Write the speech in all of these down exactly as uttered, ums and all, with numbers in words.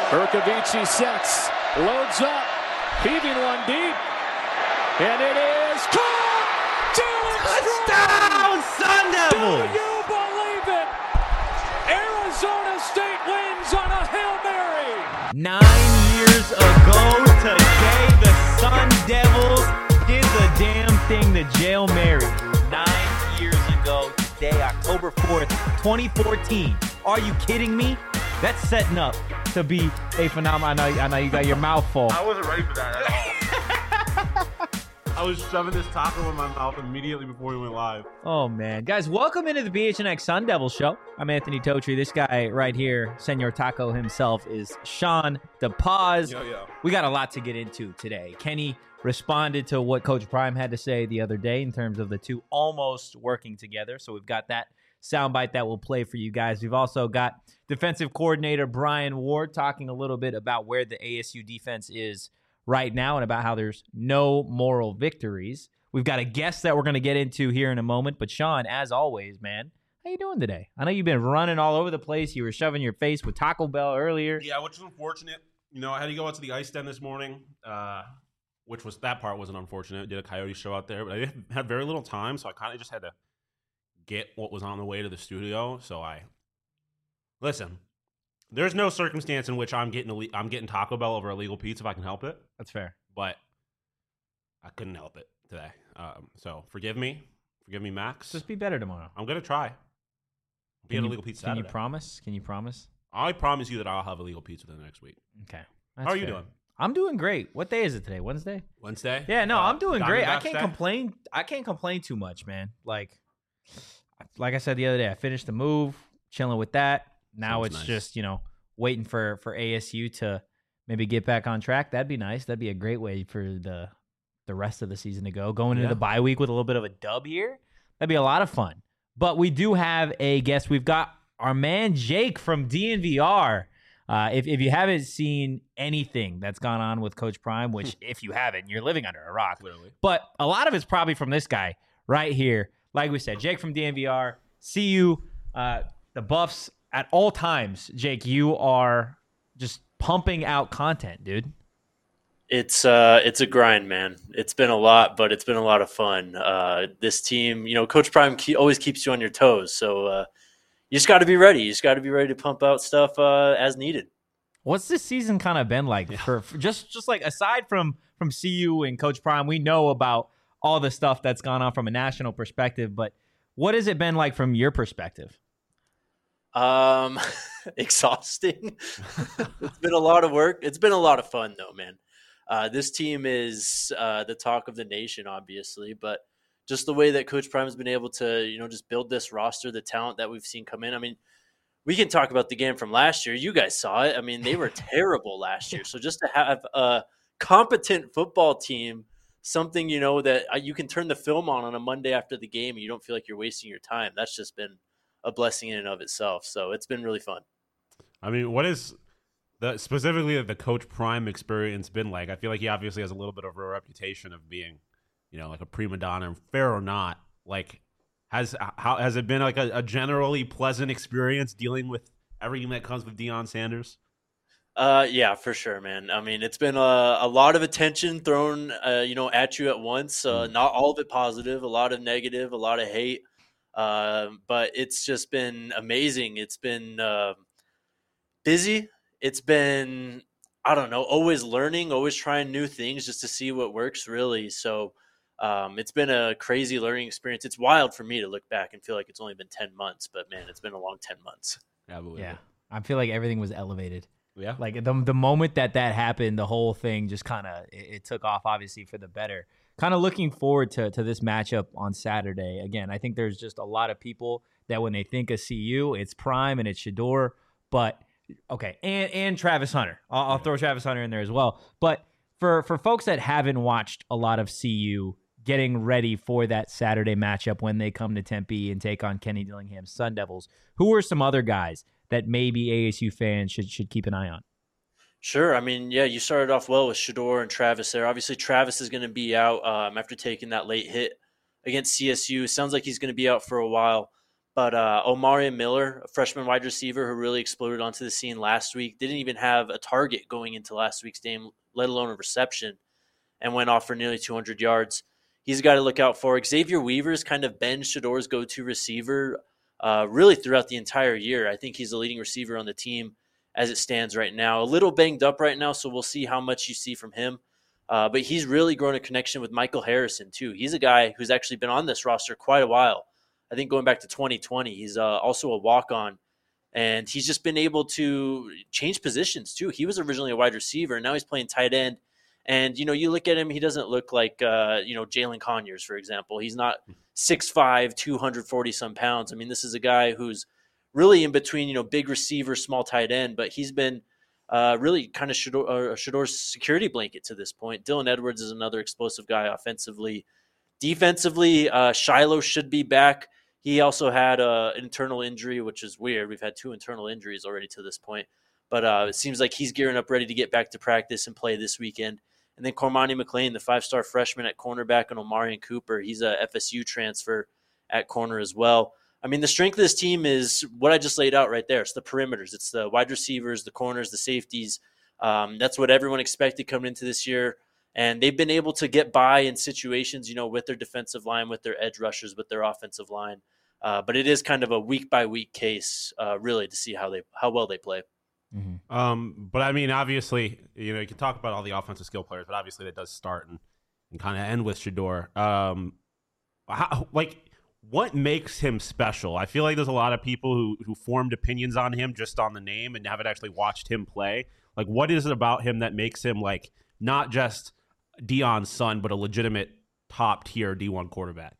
Urkavici sets, loads up, heaving one deep, and it is caught! Touchdown, Sun Devils! Do you believe it? Arizona State wins on a Hail Mary! Nine years ago today, the Sun Devils did the damn thing, the Hail Mary. Nine years ago today, October fourth, twenty fourteen. Are you kidding me? That's setting up to be a phenomenon. I know, I know you got your mouth full. I wasn't ready for that at all. I was shoving this taco in my mouth immediately before we went live. Oh, man. Guys, welcome into the B H N X Sun Devil Show. I'm Anthony Totri. This guy right here, Senor Taco himself, is Sean DePaz. Yo, yo. We got a lot to get into today. Kenny responded to what Coach Prime had to say the other day in terms of the two almost working together. So we've got that soundbite that we'll play for you guys. We've also got defensive coordinator Brian Ward talking a little bit about where the A S U defense is right now and about how there's no moral victories. We've got a guest that we're going to get into here in a moment. But Sean, as always, man, how you doing today? I know you've been running all over the place. You were shoving your face with Taco Bell earlier. Yeah, which was unfortunate. You know, I had to go out to the ice den this morning, uh, which was that part wasn't unfortunate. I did a Coyote show out there, but I had very little time, so I kind of just had to get what was on the way to the studio. So I listen. There's no circumstance in which I'm getting a, I'm getting Taco Bell over illegal pizza if I can help it. That's fair. But I couldn't help it today. Um, so forgive me, forgive me, Max. Just be better tomorrow. I'm gonna try. Be Can an you, illegal pizza. Can Saturday. you promise? Can you promise? I promise you that I'll have illegal pizza the next week. Okay. How are you doing? I'm doing great. What day is it today? Wednesday? Wednesday? Yeah, no, Uh, I'm doing great. I Diamondbacks can't Day? complain. I can't complain too much, man. Like, like I said the other day, I finished the move, chilling with that. Now Sounds it's nice. just, you know, waiting for, for A S U to maybe get back on track. That'd be nice. That'd be a great way for the the rest of the season to go. Going into Yeah. the bye week with a little bit of a dub here, that'd be a lot of fun. But we do have a guest. We've got our man Jake from D N V R. Uh, if, if you haven't seen anything that's gone on with Coach Prime, which if you haven't, you're living under a rock. Clearly. But a lot of it's probably from this guy right here. Like we said, Jake from D N V R. See you, uh, the Buffs at all times. Jake, you are just pumping out content, dude. It's uh, it's a grind, man. It's been a lot, but it's been a lot of fun. Uh, this team, you know, Coach Prime ke- always keeps you on your toes. So uh, you just got to be ready. You just got to be ready to pump out stuff uh, as needed. What's this season kind of been like for, for just just like aside from from C U and Coach Prime? We know about all the stuff that's gone on from a national perspective, but what has it been like from your perspective? Um, exhausting. It's been a lot of work. It's been a lot of fun, though, man. Uh, this team is uh, the talk of the nation, obviously, but just the way that Coach Prime has been able to, you know, just build this roster, the talent that we've seen come in. I mean, we can talk about the game from last year. You guys saw it. I mean, they were terrible last year. So just to have a competent football team, something, you know, that you can turn the film on on a Monday after the game and you don't feel like you're wasting your time. That's just been a blessing in and of itself. So it's been really fun. I mean, what is the specifically the Coach Prime experience been like? I feel like he obviously has a little bit of a reputation of being, you know, like a prima donna, fair or not. Like, has how has it been like a, a generally pleasant experience dealing with everything that comes with Deion Sanders? Uh, yeah, for sure, man. I mean, it's been a, a lot of attention thrown, uh, you know, at you at once. Uh, Mm. Not all of it positive, a lot of negative, a lot of hate. Um, but it's just been amazing. It's been uh, busy. It's been, I don't know, always learning, always trying new things just to see what works, really. So um, it's been a crazy learning experience. It's wild for me to look back and feel like it's only been ten months, but man, it's been a long ten months. Yeah, believe Yeah, it. I feel like everything was elevated. Yeah. Like the the moment that that happened, the whole thing just kind of it, it took off, obviously for the better. Kind of looking forward to to this matchup on Saturday. Again, I think there's just a lot of people that when they think of C U, it's Prime and it's Shedeur, but okay, and and Travis Hunter. I'll, I'll throw Travis Hunter in there as well. But for for folks that haven't watched a lot of C U, getting ready for that Saturday matchup when they come to Tempe and take on Kenny Dillingham's Sun Devils, who are some other guys that maybe A S U fans should should keep an eye on? Sure. I mean, yeah, you started off well with Shedeur and Travis there. Obviously, Travis is going to be out um, after taking that late hit against C S U. Sounds like he's going to be out for a while. But uh, Omari Miller, a freshman wide receiver who really exploded onto the scene last week, didn't even have a target going into last week's game, let alone a reception, and went off for nearly two hundred yards. He's a guy to look out for. Xavier Weaver's kind of Ben Shador's go-to receiver uh, really throughout the entire year. I think he's the leading receiver on the team as it stands right now. A little banged up right now, so we'll see how much you see from him. Uh, but he's really grown a connection with Michael Harrison, too. He's a guy who's actually been on this roster quite a while. I think going back to twenty twenty, he's uh, also a walk-on. And he's just been able to change positions, too. He was originally a wide receiver, and now he's playing tight end. And, you know, you look at him, he doesn't look like, uh, you know, Jalen Conyers, for example. He's not six five, two hundred forty-some pounds. I mean, this is a guy who's really in between, you know, big receiver, small tight end. But he's been uh, really kind of Shador, uh, Shador's security blanket to this point. Dylan Edwards is another explosive guy offensively. Defensively, uh, Shiloh should be back. He also had uh, an internal injury, which is weird. We've had two internal injuries already to this point. But uh, it seems like he's gearing up ready to get back to practice and play this weekend. And then Cormani McLean, the five-star freshman at cornerback, and Omarion Cooper, he's a F S U transfer at corner as well. I mean, the strength of this team is what I just laid out right there. It's the perimeters. It's the wide receivers, the corners, the safeties. Um, that's what everyone expected coming into this year. And they've been able to get by in situations, you know, with their defensive line, with their edge rushers, with their offensive line. Uh, but it is kind of a week-by-week case, uh, really, to see how they how well they play. Mm-hmm. Um, but, I mean, obviously, you know, you can talk about all the offensive skill players, but obviously that does start and, and kind of end with Shador. Um, how, like, what makes him special? I feel like there's a lot of people who, who formed opinions on him just on the name and haven't actually watched him play. Like, what is it about him that makes him, like, not just Deion's son, but a legitimate top-tier D one quarterback?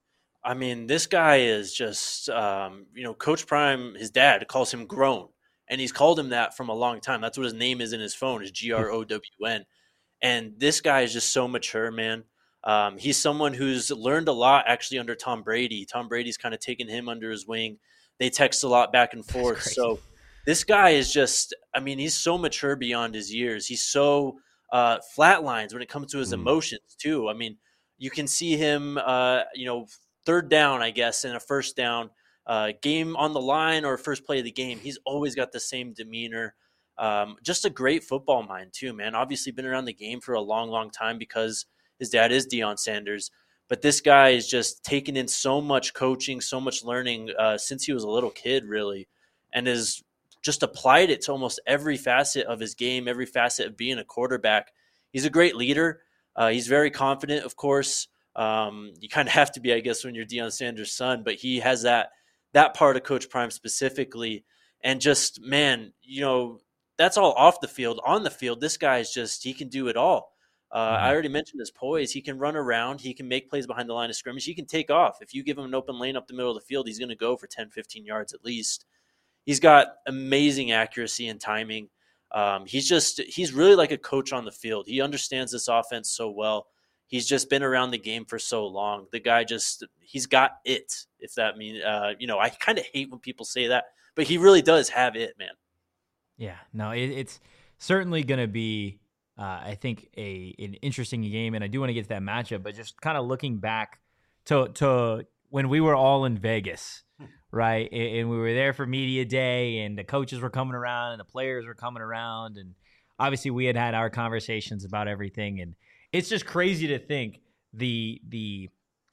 I mean, this guy is just, um, you know, Coach Prime, his dad, calls him Grown. And he's called him that from a long time. That's what his name is in his phone, is G R O W N. And this guy is just so mature, man. Um, he's someone who's learned a lot actually under Tom Brady. Tom Brady's kind of taken him under his wing. They text a lot back and forth. So this guy is just, I mean, he's so mature beyond his years. He's so uh, flatlines when it comes to his mm. emotions, too. I mean, you can see him, uh, you know, third down, I guess, and a first down. Uh, game on the line or first play of the game, he's always got the same demeanor. Um, just a great football mind too, man. Obviously been around the game for a long, long time because his dad is Deion Sanders. But this guy is just taken in so much coaching, so much learning uh, since he was a little kid, really, and has just applied it to almost every facet of his game, every facet of being a quarterback. He's a great leader. Uh, he's very confident, of course. Um, you kind of have to be, I guess, when you're Deion Sanders' son, but he has that that part of Coach Prime specifically. And just, man, you know, that's all off the field. On the field, this guy is just, he can do it all. Uh, mm-hmm. I already mentioned his poise. He can run around. He can make plays behind the line of scrimmage. He can take off. If you give him an open lane up the middle of the field, he's going to go for ten, fifteen yards at least. He's got amazing accuracy and timing. Um, he's just, he's really like a coach on the field. He understands this offense so well. He's just been around the game for so long. The guy just, he's got it, if that means, uh, you know, I kind of hate when people say that, but he really does have it, man. Yeah, no, it, it's certainly going to be, uh, I think, a an interesting game, and I do want to get to that matchup, but just kind of looking back to to when we were all in Vegas, right, and, and we were there for media day, and the coaches were coming around, and the players were coming around, and obviously we had had our conversations about everything, and it's just crazy to think the the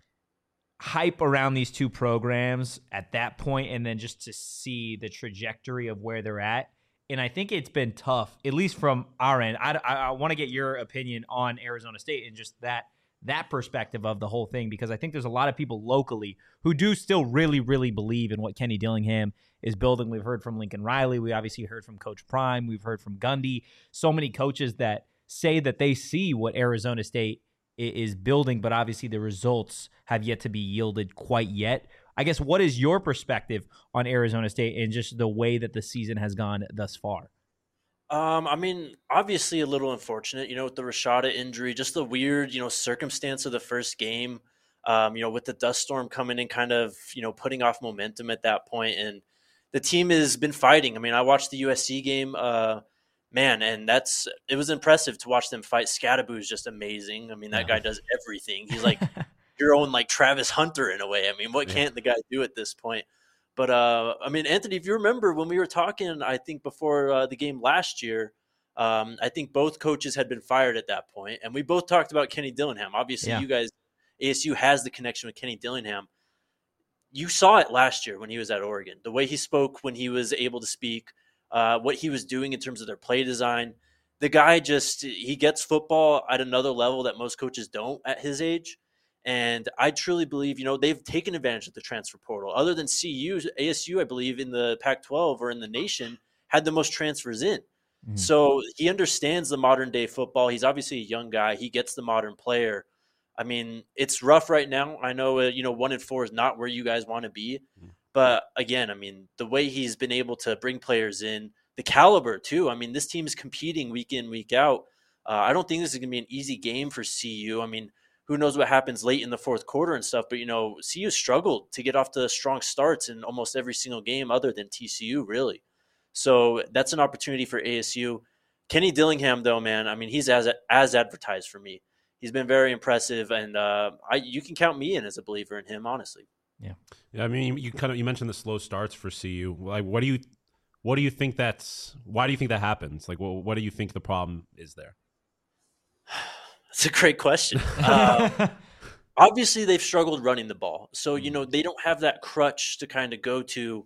hype around these two programs at that point, and then just to see the trajectory of where they're at. And I think it's been tough, at least from our end. I, I, I want to get your opinion on Arizona State and just that that perspective of the whole thing, because I think there's a lot of people locally who do still really, really believe in what Kenny Dillingham is building. We've heard from Lincoln Riley. We obviously heard from Coach Prime. We've heard from Gundy. So many coaches that say that they see what Arizona State is building, but obviously the results have yet to be yielded quite yet. I guess, what is your perspective on Arizona State and just the way that the season has gone thus far? Um, I mean, obviously a little unfortunate, you know, with the Rashada injury, just the weird, you know, circumstance of the first game, um, you know, with the dust storm coming in, kind of, you know, putting off momentum at that point. And the team has been fighting. I mean, I watched the U S C game, uh, man, and that's it was impressive to watch them fight. Scadaboo is just amazing. I mean, that yeah. guy does everything. He's like your own like Travis Hunter in a way. I mean, what yeah. can't the guy do at this point? But uh, I mean, Anthony, if you remember when we were talking, I think before uh, the game last year, um, I think both coaches had been fired at that point, and we both talked about Kenny Dillingham. Obviously, Yeah. you guys, A S U has the connection with Kenny Dillingham. You saw it last year when he was at Oregon. The way he spoke when he was able to speak, uh, what he was doing in terms of their play design. The guy just he gets football at another level that most coaches don't at his age. And I truly believe, you know, they've taken advantage of the transfer portal. Other than C U, A S U, I believe, in the Pac twelve or in the nation, had the most transfers in. Mhm. So he understands the modern day football. He's obviously a young guy. He gets the modern player. I mean, it's rough right now. I know, uh, you know, one and four is not where you guys want to be. But again, I mean, the way he's been able to bring players in, the caliber too. I mean, this team is competing week in, week out. Uh, I don't think this is going to be an easy game for C U. I mean, who knows what happens late in the fourth quarter and stuff. But, you know, C U struggled to get off to strong starts in almost every single game other than T C U, really. So that's an opportunity for A S U. Kenny Dillingham, though, man, I mean, he's as as advertised for me. He's been very impressive, and uh, I you can count me in as a believer in him, honestly. Yeah, I mean, you, you kind of you mentioned the slow starts for C U. Like, what do you what do you think that's why do you think that happens? Like, well, what do you think the problem is there? That's a great question. Uh, obviously, they've struggled running the ball, so you know they don't have that crutch to kind of go to.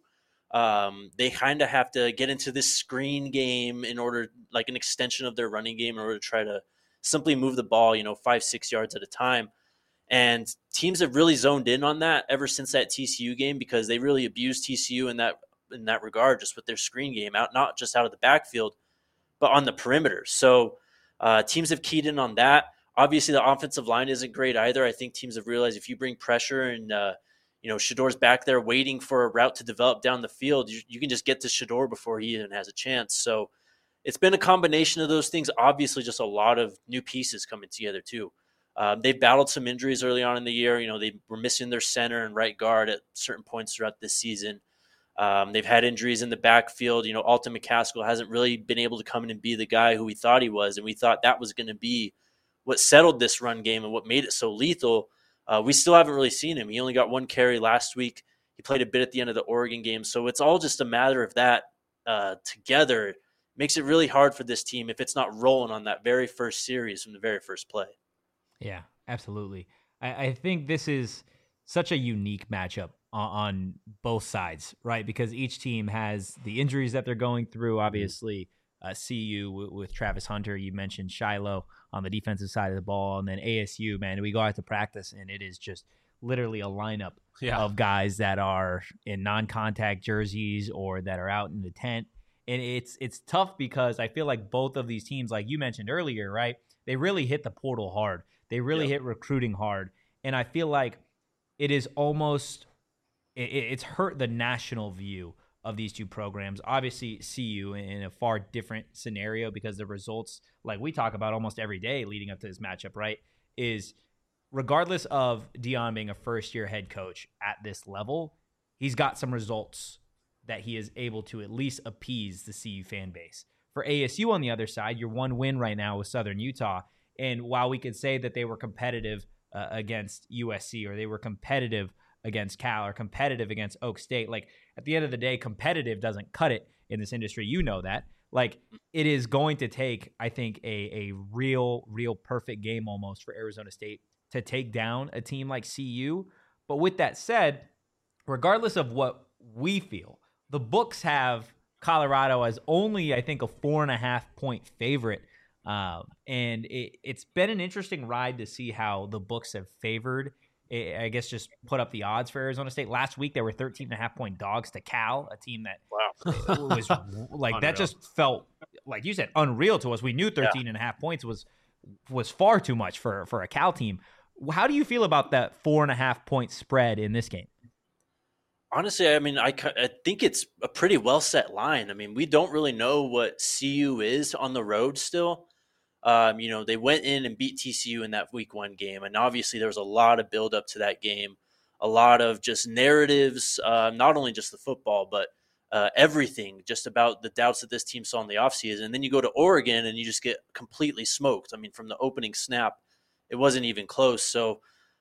Um, they kind of have to get into this screen game in order, like an extension of their running game, in order to try to simply move the ball, you know, five six yards at a time. And teams have really zoned in on that ever since that T C U game because they really abused T C U in that in that regard, just with their screen game out, not just out of the backfield, but on the perimeter. So uh, teams have keyed in on that. Obviously, the offensive line isn't great either. I think teams have realized if you bring pressure and uh, you know Shador's back there waiting for a route to develop down the field, you, you can just get to Shador before he even has a chance. So it's been a combination of those things. Obviously, just a lot of new pieces coming together too. Um, they've battled some injuries early on in the year. You know, they were missing their center and right guard at certain points throughout this season. Um, they've had injuries in the backfield. You know, Alton McCaskill hasn't really been able to come in and be the guy who we thought he was, and we thought that was going to be what settled this run game and what made it so lethal. Uh, we still haven't really seen him. He only got one carry last week. He played a bit at the end of the Oregon game. So it's all just a matter of that uh, together. It makes it really hard for this team if it's not rolling on that very first series from the very first play. Yeah, absolutely. I, I think this is such a unique matchup on, on both sides, right? Because each team has the injuries that they're going through. Obviously, uh, C U with, with Travis Hunter, you mentioned Shiloh on the defensive side of the ball, and then A S U, man, we go out to practice, and it is just literally a lineup yeah. of guys that are in non-contact jerseys or that are out in the tent. And it's it's tough because I feel like both of these teams, like you mentioned earlier, right, they really hit the portal hard. They really yep. hit recruiting hard. And I feel like it is almost it, it's hurt the national view of these two programs. Obviously, C U in a far different scenario because the results, like we talk about almost every day leading up to this matchup, right, is regardless of Deion being a first-year head coach at this level, he's got some results that he is able to at least appease the C U fan base. For A S U on the other side, your one win right now with Southern Utah. And while we could say that they were competitive uh, against U S C or they were competitive against Cal or competitive against Oak State, like at the end of the day, competitive doesn't cut it in this industry. You know that. Like it is going to take, I think, a, a real, real perfect game almost for Arizona State to take down a team like C U. But with that said, regardless of what we feel, the books have Colorado as only, I think, a four and a half point favorite. Um, and it, it's been an interesting ride to see how the books have favored, I guess, just put up the odds for Arizona State. Last week, they were thirteen and a half point dogs to Cal, a team that wow. was like, that just felt, like you said, unreal to us. We knew thirteen yeah. and a half points was, was far too much for, for a Cal team. How do you feel about that four and a half point spread in this game? Honestly, I mean, I, I think it's a pretty well set line. I mean, we don't really know what C U is on the road still. Um, you know, they went in and beat T C U in that week one game. And obviously there was a lot of build up to that game, a lot of just narratives, uh, not only just the football, but uh, everything just about the doubts that this team saw in the offseason. And then you go to Oregon and you just get completely smoked. I mean, from the opening snap, it wasn't even close. So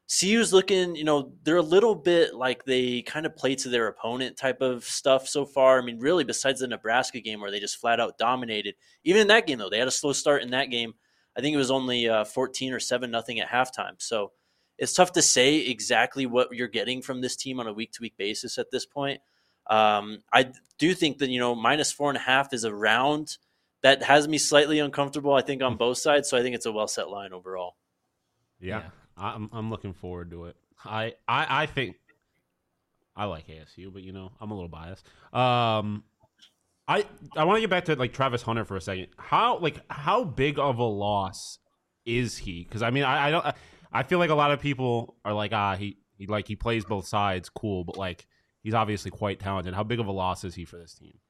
C U's looking, you know, they're a little bit like they kind of play to their opponent type of stuff so far. I mean, really, besides the Nebraska game where they just flat out dominated. Even in that game, though, they had a slow start in that game. I think it was only uh, fourteen or seven nothing at halftime. So it's tough to say exactly what you're getting from this team on a week-to-week basis at this point. Um, I do think that, you know, minus four and a half is a round that has me slightly uncomfortable, I think, on both sides. So I think it's a well-set line overall. Yeah, Yeah. I'm I'm looking forward to it. I, I I think I like A S U, but you know I'm a little biased. Um, I I want to get back to like Travis Hunter for a second. How like how big of a loss is he? Because I mean I, I don't I feel like a lot of people are like ah he, he like he plays both sides, cool, but like he's obviously quite talented. How big of a loss is he for this team?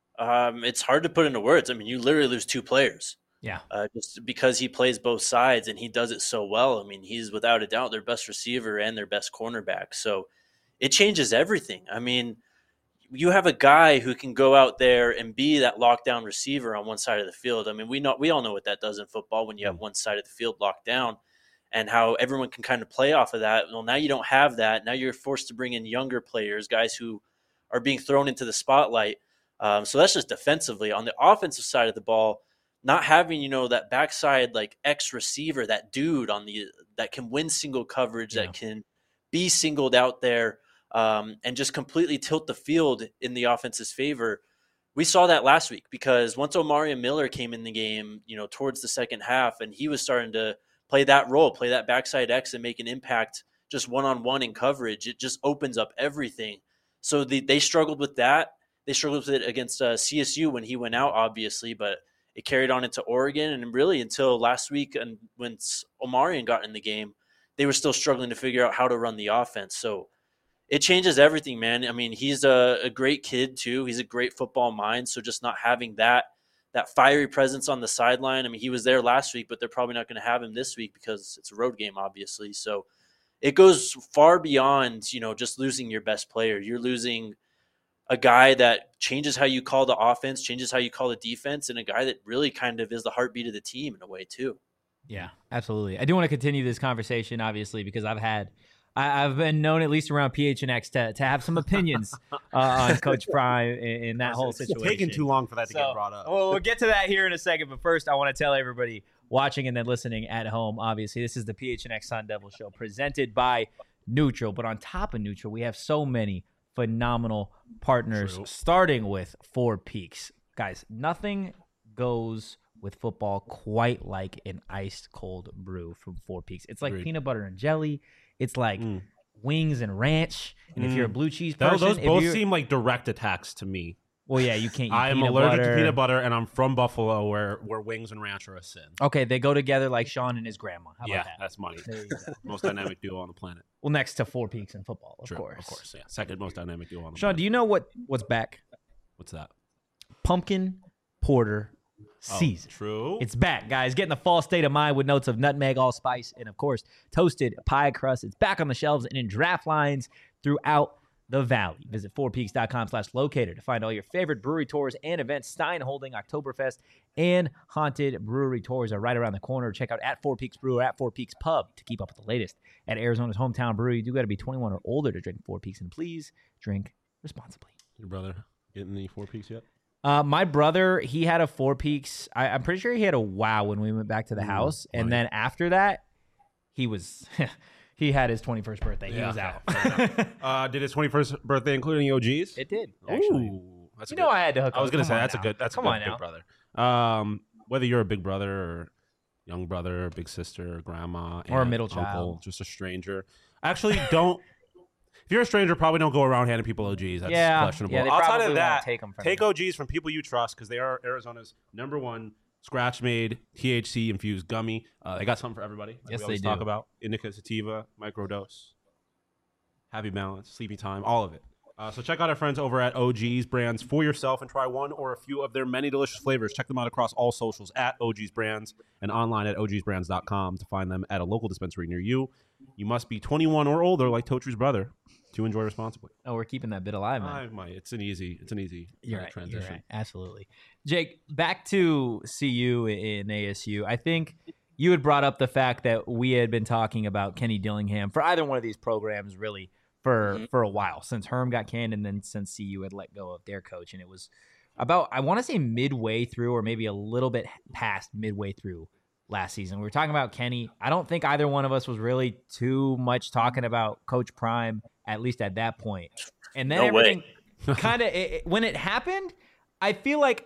Um, it's hard to put into words. I mean, you literally lose two players. Yeah. Uh, just because he plays both sides and he does it so well. I mean, he's without a doubt their best receiver and their best cornerback. So it changes everything. I mean, you have a guy who can go out there and be that lockdown receiver on one side of the field. I mean, we know we all know what that does in football when you have one side of the field locked down and how everyone can kind of play off of that. Well, now you don't have that. Now you're forced to bring in younger players, guys who are being thrown into the spotlight. Um, so that's just defensively. On the offensive side of the ball, not having, you know, that backside like X receiver, that dude on the that can win single coverage, Yeah. that can be singled out there um, and just completely tilt the field in the offense's favor. We saw that last week because once Omarion Miller came in the game, you know, towards the second half, and he was starting to play that role, play that backside X and make an impact just one-on-one in coverage. It just opens up everything. So the, they struggled with that. They struggled with it against uh, C S U when he went out, obviously, but it carried on into Oregon, and really until last week and when Omarion got in the game, they were still struggling to figure out how to run the offense. So it changes everything, man. I mean, he's a, a great kid too. He's a great football mind. So just not having that that fiery presence on the sideline. I mean, he was there last week, but they're probably not going to have him this week because it's a road game, obviously. So it goes far beyond, you know, just losing your best player. You're losing a guy that changes how you call the offense, changes how you call the defense, and a guy that really kind of is the heartbeat of the team in a way too. Yeah, absolutely. I do want to continue this conversation, obviously, because I've had, I, I've been known at least around P H N X to, to have some opinions uh, on Coach Prime in, in that whole situation. It's taking too long for that to So, get brought up. Well, we'll get to that here in a second, but first I want to tell everybody watching and then listening at home, obviously, this is the P H N X Sun Devil Show presented by Neutral. But on top of Neutral, we have so many phenomenal partners, True. starting with Four Peaks. Guys, nothing goes with football quite like an ice cold brew from Four Peaks. It's like Agreed. peanut butter and jelly. It's like Mm. wings and ranch. And if you're a Mm. blue cheese Those, person, those if both you're- seem like direct attacks to me. well, yeah, you can't eat I am peanut allergic butter. to peanut butter, and I'm from Buffalo, where, where wings and ranch are a sin. Okay, they go together like Sean and his grandma. How about Yeah, that? that's money. There you go. Most dynamic duo on the planet. Well, next to Four Peaks in football, of True, course. Of course, yeah. Second most dynamic duo on the Sean, planet. do you know what what's back? What's that? Pumpkin porter season. Oh, true. It's back, guys. Get in the fall state of mind with notes of nutmeg, allspice, and of course, toasted pie crust. It's back on the shelves and in draft lines throughout the valley. Visit four peaks dot com slash locator to find all your favorite brewery tours and events. Stein holding Oktoberfest and Haunted Brewery tours are right around the corner. Check out at Four Peaks Brew or at Four Peaks Pub to keep up with the latest. At Arizona's hometown brewery, you do got to be twenty-one or older to drink Four Peaks, and please drink responsibly. Your brother getting the Four Peaks yet? Uh, my brother, he had a Four Peaks. I, I'm pretty sure he had a Wow when we went back to the Ooh, house. And right. then after that, he was, he had his twenty-first birthday. He Yeah, was out. Uh, did his twenty-first birthday include any O Gs? It did, actually. Ooh, that's a You good, know I had to hook I was up. gonna Come say on that's now. a good. That's Come a good on big now. brother. Um, whether you're a big brother or young brother, or big sister, or grandma, Or a aunt, middle uncle, child. just a stranger. Actually, don't. If you're a stranger, probably don't go around handing people O Gs. That's Yeah, questionable. yeah, they Outside probably of won't that, take 'em from take you. O Gs from people you trust because they are Arizona's number one scratch-made T H C infused gummy. Uh, they got something for everybody. Like Yes, we always they talk do. about indica sativa, microdose, happy balance, sleepy time, all of it. Uh, so check out our friends over at O G's Brands for yourself and try one or a few of their many delicious flavors. Check them out across all socials at O G's Brands and online at O Gs brands dot com to find them at a local dispensary near you. You must be twenty-one or older, like Totru's brother, to enjoy responsibly. Oh, we're keeping that bit alive, man. I might. It's an easy. It's an easy You're uh, right. transition. You're right. Absolutely. Jake, back to C U and A S U. I think you had brought up the fact that we had been talking about Kenny Dillingham for either one of these programs really for, mm-hmm. for a while, since Herm got canned and then since C U had let go of their coach. And it was about, I want to say midway through or maybe a little bit past midway through last season. We were talking about Kenny. I don't think either one of us was really too much talking about Coach Prime, at least at that point. And then no everything kind of, when it happened, I feel like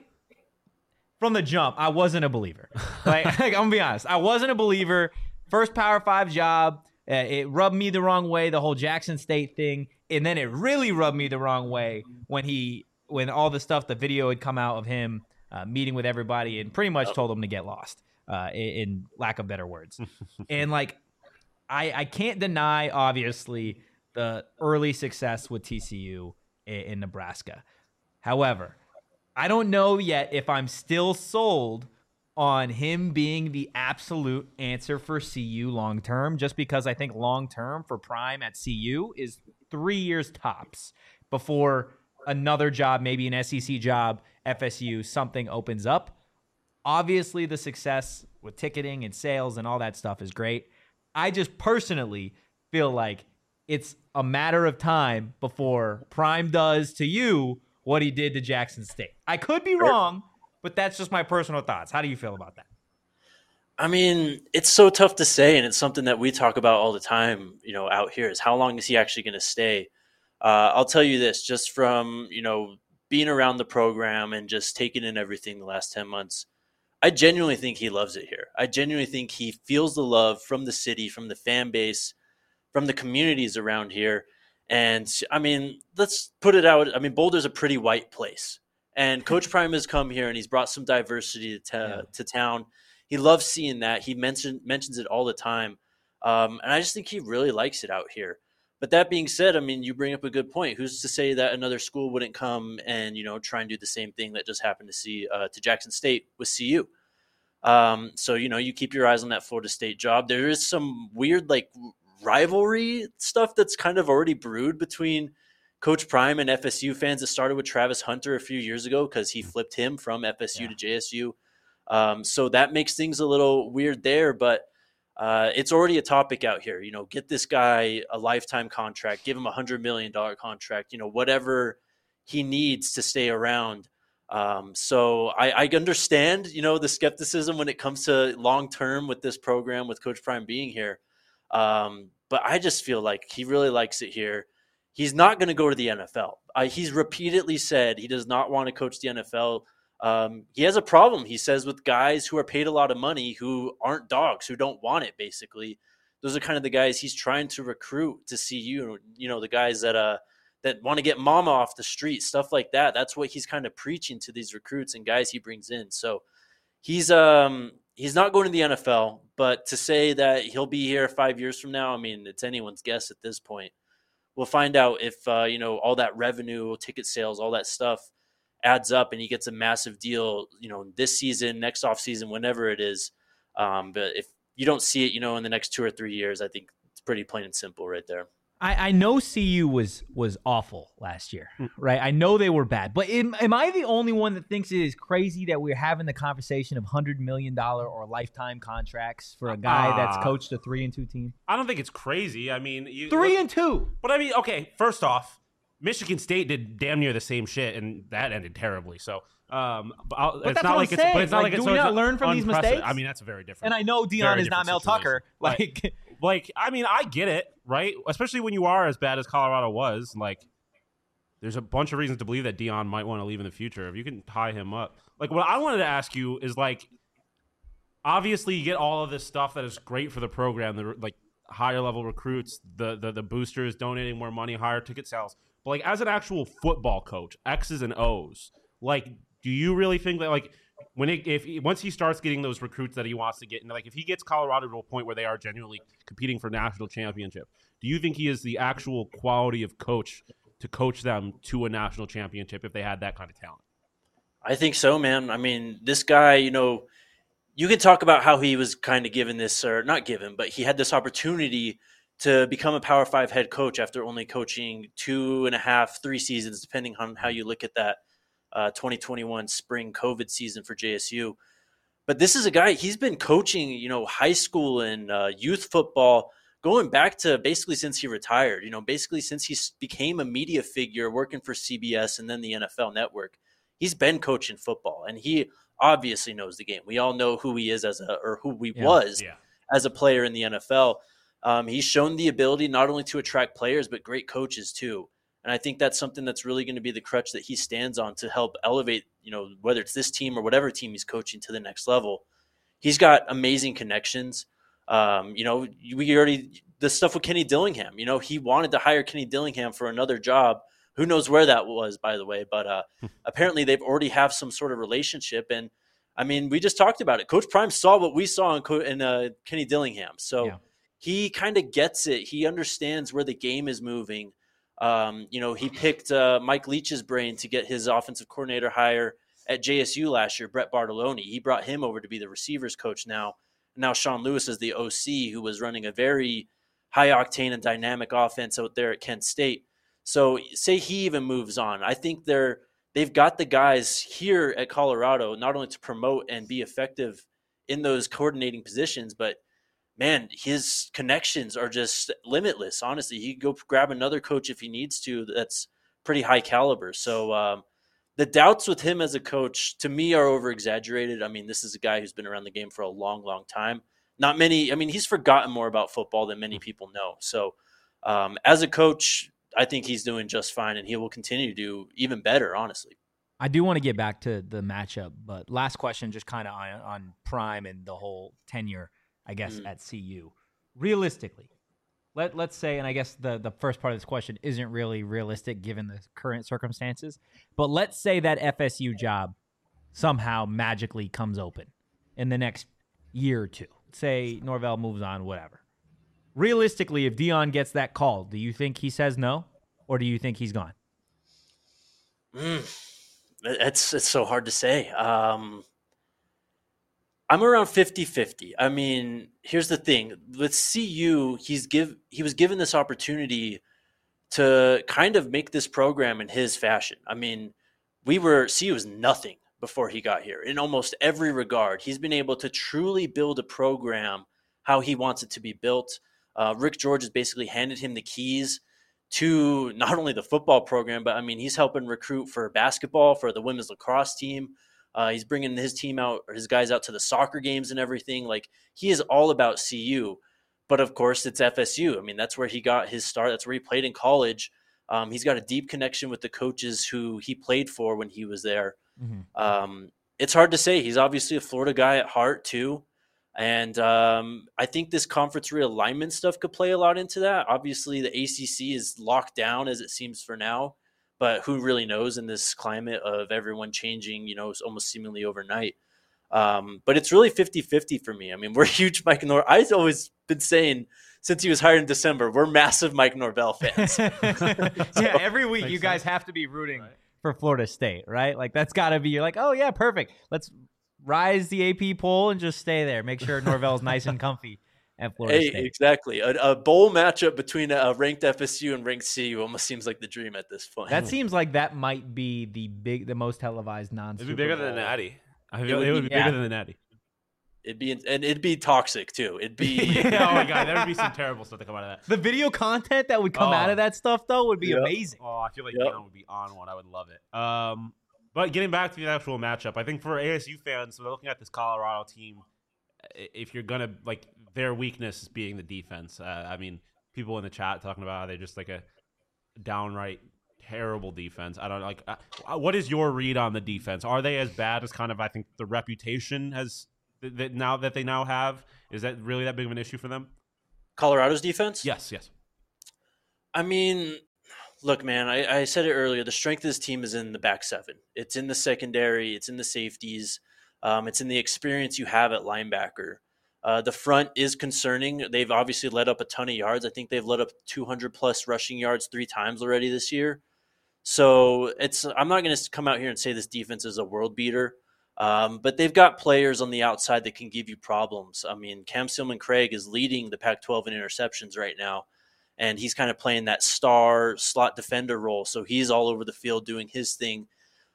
from the jump, I wasn't a believer. Like, like I'm gonna be honest, I wasn't a believer. First Power Five job, uh, it rubbed me the wrong way. The whole Jackson State thing, and then it really rubbed me the wrong way when he, when all the stuff, the video had come out of him uh, meeting with everybody and pretty much told them to get lost, uh, in, in lack of better words. And like, I I can't deny obviously the early success with T C U in, in Nebraska. However, I don't know yet if I'm still sold on him being the absolute answer for C U long-term, just because I think long-term for Prime at C U is three years tops before another job, maybe an S E C job, F S U, something opens up. Obviously, the success with ticketing and sales and all that stuff is great. I just personally feel like it's a matter of time before Prime does to you what he did to Jackson State. I could be wrong, but that's just my personal thoughts. How do you feel about that? I mean, it's so tough to say, and it's something that we talk about all the time, you know, out here, is how long is he actually going to stay? Uh, I'll tell you this, just from, you know, being around the program and just taking in everything the last ten months, I genuinely think he loves it here. I genuinely think he feels the love from the city, from the fan base, from the communities around here. And I mean, let's put it out. I mean, Boulder's a pretty white place, and Coach Prime has come here and he's brought some diversity to, ta- yeah. to town. He loves seeing that. He mentioned mentions it all the time. Um, and I just think he really likes it out here. But that being said, I mean, you bring up a good point. Who's to say that another school wouldn't come and, you know, try and do the same thing that just happened to see uh, to Jackson State with C U? Um, so, you know, you keep your eyes on that Florida State job. There is some weird, like, rivalry stuff that's kind of already brewed between Coach Prime and F S U fans. It started with Travis Hunter a few years ago because he flipped him from F S U yeah. to J S U. Um, so that makes things a little weird there, but uh, it's already a topic out here. You know, get this guy a lifetime contract, give him a one hundred million dollars contract, you know, whatever he needs to stay around. Um, so I, I understand, you know, the skepticism when it comes to long-term with this program, with Coach Prime being here. Um, but I just feel like he really likes it here. He's not going to go to the N F L. Uh, he's repeatedly said he does not want to coach the N F L. Um, he has a problem, he says, with guys who are paid a lot of money, who aren't dogs, who don't want it, basically. Those are kind of the guys he's trying to recruit to C U, you know, the guys that uh that want to get mama off the street, stuff like that. That's what he's kind of preaching to these recruits and guys he brings in. So he's um he's not going to the N F L, but to say that he'll be here five years from now, I mean, it's anyone's guess at this point. We'll find out if, uh, you know, all that revenue, ticket sales, all that stuff adds up and he gets a massive deal, you know, this season, next off season, whenever it is. Um, but if you don't see it, you know, in the next two or three years, I think it's pretty plain and simple right there. I, I know C U was was awful last year, right? I know they were bad, but am, am I the only one that thinks it is crazy that we're having the conversation of one hundred million dollars or lifetime contracts for a guy uh, that's coached a three and two team? I don't think it's crazy. I mean, you, three look, and two. But I mean, okay, first off, Michigan State did damn near the same shit, and that ended terribly. So, um, but, I'll, but it's that's not what like I'm it's. saying. But it's not like, like do it's, we so not it's learn from these mistakes? I mean, that's a very different. And I know Deion is not Mel situation. Tucker. Like, like, like, I mean, I get it, right? Especially when you are as bad as Colorado was. Like, there's a bunch of reasons to believe that Deion might want to leave in the future. If you can tie him up, like, what I wanted to ask you is, like, obviously you get all of this stuff that is great for the program, the like higher level recruits, the the the boosters donating more money, higher ticket sales. But like, as an actual football coach, X's and O's, like, do you really think that, like, when it, if once he starts getting those recruits that he wants to get, and like if he gets Colorado to a point where they are genuinely competing for national championship, do you think he is the actual quality of coach to coach them to a national championship if they had that kind of talent? I think so, man. I mean, this guy, you know, you can talk about how he was kind of given this, or not given, but he had this opportunity to become a Power Five head coach after only coaching two and a half, three seasons, depending on how you look at that uh, twenty twenty-one spring COVID season for J S U. But this is a guy, he's been coaching, you know, high school and uh, youth football going back to basically since he retired, you know, basically since he became a media figure working for C B S and then the N F L Network. He's been coaching football, and he obviously knows the game. We all know who he is as a, or who he Yeah. was Yeah. as a player in the N F L. Um, he's shown the ability not only to attract players, but great coaches too. And I think that's something that's really going to be the crutch that he stands on to help elevate, you know, whether it's this team or whatever team he's coaching to the next level. He's got amazing connections. Um, you know, we already, the stuff with Kenny Dillingham, you know, he wanted to hire Kenny Dillingham for another job. Who knows where that was, by the way, but uh, apparently they've already have some sort of relationship. And I mean, we just talked about it. Coach Prime saw what we saw in, in uh, Kenny Dillingham. So Yeah. he kind of gets it. He understands where the game is moving. Um, you know, he picked uh, Mike Leach's brain to get his offensive coordinator hire at J S U last year, Brett Bartoloni. He brought him over to be the receivers coach now. Now Sean Lewis is the O C, who was running a very high-octane and dynamic offense out there at Kent State. So say he even moves on. I think they're they've got the guys here at Colorado not only to promote and be effective in those coordinating positions, but man, his connections are just limitless. Honestly, he could go grab another coach if he needs to. That's pretty high caliber. So um, the doubts with him as a coach, to me, are over exaggerated. I mean, this is a guy who's been around the game for a long, long time. Not many. I mean, he's forgotten more about football than many people know. So um, as a coach, I think he's doing just fine, and he will continue to do even better, honestly. I do want to get back to the matchup, but last question, just kind of on, on Prime and the whole tenure, I guess, mm. at C U. Realistically, let, let's say, and I guess the, the first part of this question isn't really realistic given the current circumstances, but let's say that F S U job somehow magically comes open in the next year or two. Say Norvell moves on, whatever. Realistically, if Dion gets that call, do you think he says no, or do you think he's gone? Mm. It's it's so hard to say. Um, I'm around fifty-fifty. I mean, here's the thing. With C U, he's give he was given this opportunity to kind of make this program in his fashion. I mean, we were C U was nothing before he got here in almost every regard. He's been able to truly build a program how he wants it to be built. Uh, Rick George has basically handed him the keys to not only the football program, but I mean, he's helping recruit for basketball, for the women's lacrosse team. Uh, he's bringing his team out, or his guys out to the soccer games and everything. Like, he is all about C U. But of course, it's F S U. I mean, that's where he got his start. That's where he played in college. Um, he's got a deep connection with the coaches who he played for when he was there. Mm-hmm. Um, it's hard to say. He's obviously a Florida guy at heart too. And um, I think this conference realignment stuff could play a lot into that. Obviously, the A C C is locked down as it seems for now, but who really knows in this climate of everyone changing, you know, almost seemingly overnight. Um, but it's really fifty-fifty for me. I mean, we're huge Mike Norvell. I've always been saying since he was hired in December, we're massive Mike Norvell fans. so, yeah, every week you guys sense. have to be rooting right. for Florida State, right? Like, that's got to be, you're like, oh, yeah, perfect. Let's rise the A P poll and just stay there. Make sure Norvell's nice and comfy at Florida hey, State. Exactly. A, a bowl matchup between a ranked F S U and ranked C U almost seems like the dream at this point. That seems like that might be the big, the most televised non-Super It'd be bigger Bowl. than the Natty. I It feel would it would be- be bigger yeah. than the Natty. It'd be and it'd be toxic too. It'd be oh my god, there would be some terrible stuff to come out of that. The video content that would come Oh. out of that stuff, though, would be Yep. amazing. Oh, I feel like Yep. Dion would be on one. I would love it. Um, but getting back to the actual matchup, I think for A S U fans, so they're looking at this Colorado team. i- If you're gonna like their weakness being the defense, uh, I mean, people in the chat talking about how they're just like a downright terrible defense. I don't like. Uh, what is your read on the defense? Are they as bad as kind of I think the reputation has that th- now that they now have? Is that really that big of an issue for them? Colorado's defense. Yes, yes. I mean, look, man, I, I said it earlier. The strength of this team is in the back seven. It's in the secondary. It's in the safeties. Um, it's in the experience you have at linebacker. Uh, the front is concerning. They've obviously let up a ton of yards. I think they've let up two hundred plus rushing yards three times already this year. So it's. I'm not going to come out here and say this defense is a world beater, um, but they've got players on the outside that can give you problems. I mean, Cam Sealman-Craig is leading the Pac twelve in interceptions right now. And he's kind of playing that star slot defender role. So he's all over the field doing his thing.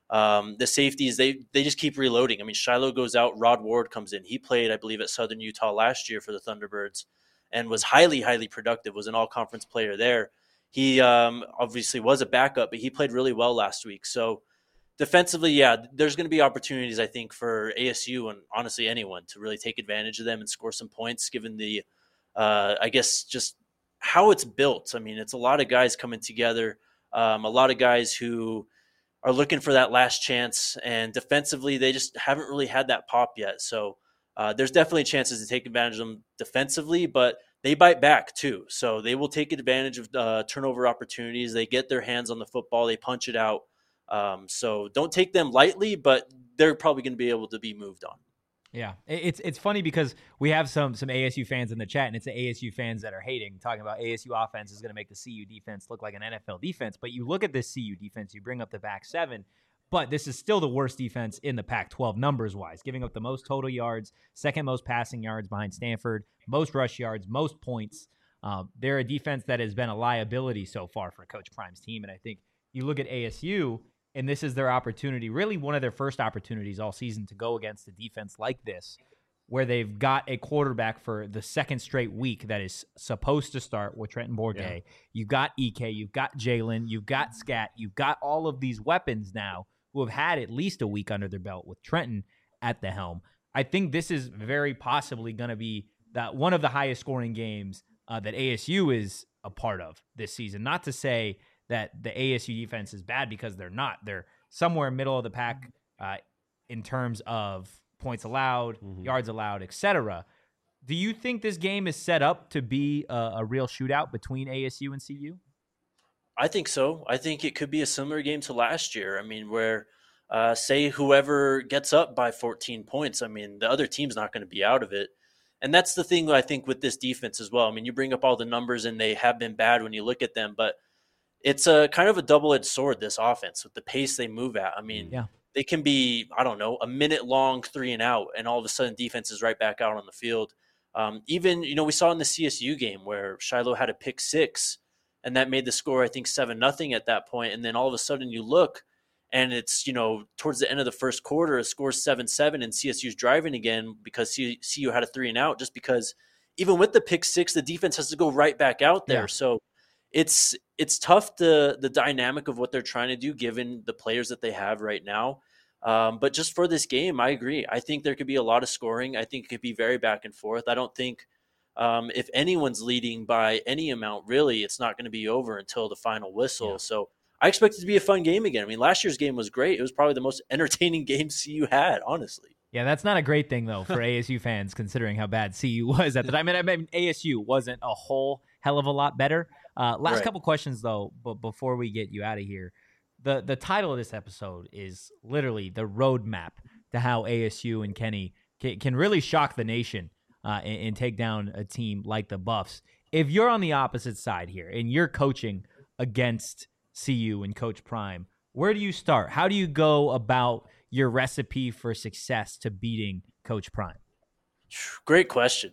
Um, the safeties, they they just keep reloading. I mean, Shiloh goes out, Rod Ward comes in. He played, I believe, at Southern Utah last year for the Thunderbirds and was highly, highly productive, was an all-conference player there. He um, obviously was a backup, but he played really well last week. So defensively, yeah, there's going to be opportunities, I think, for A S U and honestly anyone to really take advantage of them and score some points given the, uh, I guess, just how it's built. I mean, it's a lot of guys coming together, um, a lot of guys who are looking for that last chance, and defensively, they just haven't really had that pop yet. So uh, there's definitely chances to take advantage of them defensively, but they bite back too. So they will take advantage of uh, turnover opportunities. They get their hands on the football. They punch it out. Um, so don't take them lightly, but they're probably going to be able to be moved on. Yeah, it's it's funny because we have some some A S U fans in the chat, and it's the A S U fans that are hating, talking about A S U offense is going to make the C U defense look like an N F L defense. But you look at this C U defense, you bring up the back seven, but this is still the worst defense in the Pac twelve numbers-wise, giving up the most total yards, second most passing yards behind Stanford, most rush yards, most points. Um, they're a defense that has been a liability so far for Coach Prime's team, and I think you look at A S U, and this is their opportunity, really one of their first opportunities all season to go against a defense like this, where they've got a quarterback for the second straight week that is supposed to start with Trenton Bourguet. Yeah. You've got E K, you've got Jalen, you've got Scat, you've got all of these weapons now who have had at least a week under their belt with Trenton at the helm. I think this is very possibly going to be that one of the highest scoring games uh, that A S U is a part of this season. Not to say that the A S U defense is bad, because they're not. They're somewhere middle of the pack uh, in terms of points allowed, mm-hmm. yards allowed, et cetera. Do you think this game is set up to be a, a real shootout between A S U and C U? I think so. I think it could be a similar game to last year. I mean, where uh, say whoever gets up by fourteen points, I mean, the other team's not going to be out of it. And that's the thing I think with this defense as well. I mean, you bring up all the numbers and they have been bad when you look at them, but it's a kind of a double-edged sword, this offense, with the pace they move at. I mean, yeah. They can be, I don't know, a minute long three and out, and all of a sudden defense is right back out on the field. Um, even, you know, we saw in the C S U game where Shiloh had a pick six, and that made the score, I think, seven nothing at that point. And then all of a sudden you look, and it's, you know, towards the end of the first quarter, it scores seven seven, and C S U's driving again because C U had a three and out, just because even with the pick six, the defense has to go right back out there. Yeah. So it's it's tough, the the dynamic of what they're trying to do given the players that they have right now. Um, but just for this game, I agree. I think there could be a lot of scoring. I think it could be very back and forth. I don't think um, if anyone's leading by any amount, really, it's not going to be over until the final whistle. Yeah. So I expect it to be a fun game again. I mean, last year's game was great. It was probably the most entertaining game C U had, honestly. Yeah, that's not a great thing, though, for A S U fans, considering how bad C U was at the time. I mean, I mean, A S U wasn't a whole hell of a lot better. Uh, last right. couple questions, though, but before we get you out of here. The the title of this episode is literally the roadmap to how A S U and Kenny can, can really shock the nation uh, and, and take down a team like the Buffs. If you're on the opposite side here and you're coaching against C U and Coach Prime, where do you start? How do you go about your recipe for success to beating Coach Prime? Great question.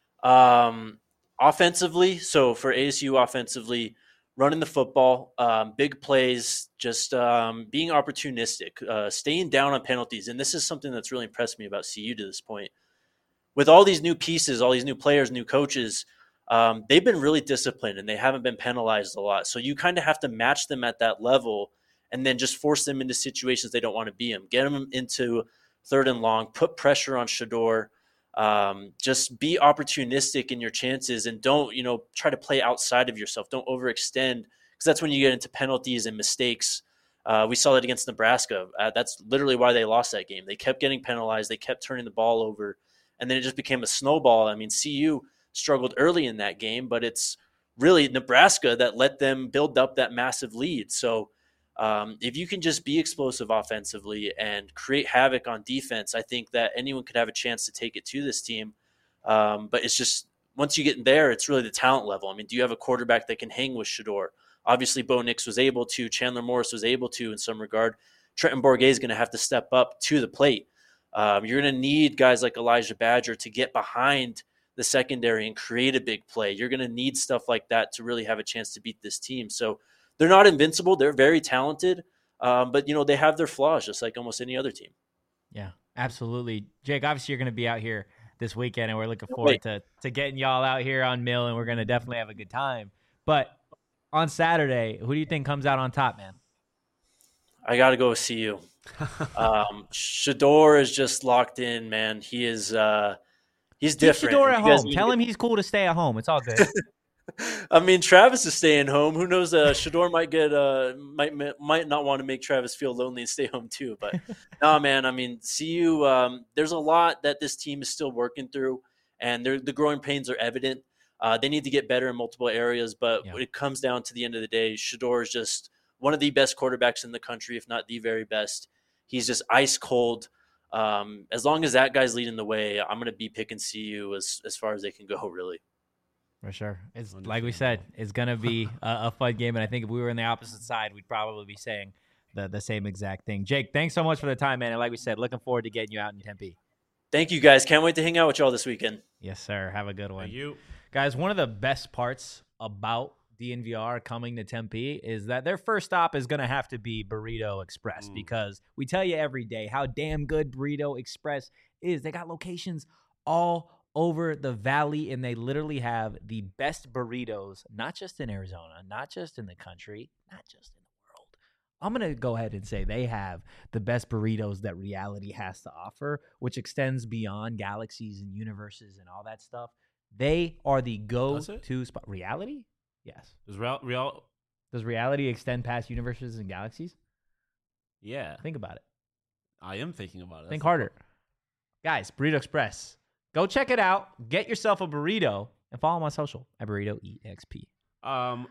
Um, offensively, so for A S U offensively, running the football, um, big plays, just um, being opportunistic, uh, staying down on penalties. And this is something that's really impressed me about C U to this point. With all these new pieces, all these new players, new coaches, um, they've been really disciplined and they haven't been penalized a lot. So you kind of have to match them at that level and then just force them into situations they don't want to be in. Get them into third and long, put pressure on Shedeur. Um, just be opportunistic in your chances and don't, you know, try to play outside of yourself. Don't overextend, because that's when you get into penalties and mistakes. Uh, we saw that against Nebraska. Uh, that's literally why they lost that game. They kept getting penalized. They kept turning the ball over, and then it just became a snowball. I mean, C U struggled early in that game, but it's really Nebraska that let them build up that massive lead. So Um, if you can just be explosive offensively and create havoc on defense, I think that anyone could have a chance to take it to this team. Um, but it's just, once you get in there, it's really the talent level. I mean, do you have a quarterback that can hang with Shedeur? Obviously, Bo Nix was able to. Chandler Morris was able to in some regard. Trenton Bourguet is going to have to step up to the plate. Um, you're going to need guys like Elijah Badger to get behind the secondary and create a big play. You're going to need stuff like that to really have a chance to beat this team. So they're not invincible. They're very talented. Um, but, you know, they have their flaws just like almost any other team. Yeah, absolutely. Jake, obviously you're going to be out here this weekend, and we're looking Can't forward wait. to, to getting y'all out here on Mill, and we're going to definitely have a good time. But on Saturday, who do you think comes out on top, man? I got to go with C U. um, Shedeur is just locked in, man. He is uh, he's Keep different. Shedeur at You guys home. need Tell to- him he's cool to stay at home. It's all good. I mean, Travis is staying home. Who knows? Uh, Shedeur might get uh, might might not want to make Travis feel lonely and stay home too. But no, man. I mean, C U. Um, there's a lot that this team is still working through, and the growing pains are evident. Uh, they need to get better in multiple areas, but Yeah. when it comes down to the end of the day, Shedeur is just one of the best quarterbacks in the country, if not the very best. He's just ice cold. Um, as long as that guy's leading the way, I'm going to be picking C U as as far as they can go. Really. For sure. It's like we said, it's going to be a, a fun game. And I think if we were on the opposite side, we'd probably be saying the, the same exact thing. Jake, thanks so much for the time, man. And like we said, looking forward to getting you out in Tempe. Thank you, guys. Can't wait to hang out with y'all this weekend. Yes, sir. Have a good one. Thank you. Guys, one of the best parts about D N V R coming to Tempe is that their first stop is going to have to be Burrito Express Mm. because we tell you every day how damn good Burrito Express is. They got locations all over the valley, and they literally have the best burritos, not just in Arizona, not just in the country, not just in the world. I'm going to go ahead and say they have the best burritos that reality has to offer, which extends beyond galaxies and universes and all that stuff. They are the Does it? go-to spot. Reality? Yes. Does real, real? Does reality extend past universes and galaxies? Yeah, Think about it. I am thinking about it. Think That's harder. Guys, Burrito Express. Go check it out. Get yourself a burrito and follow them on social at Burrito E X P. the- Um,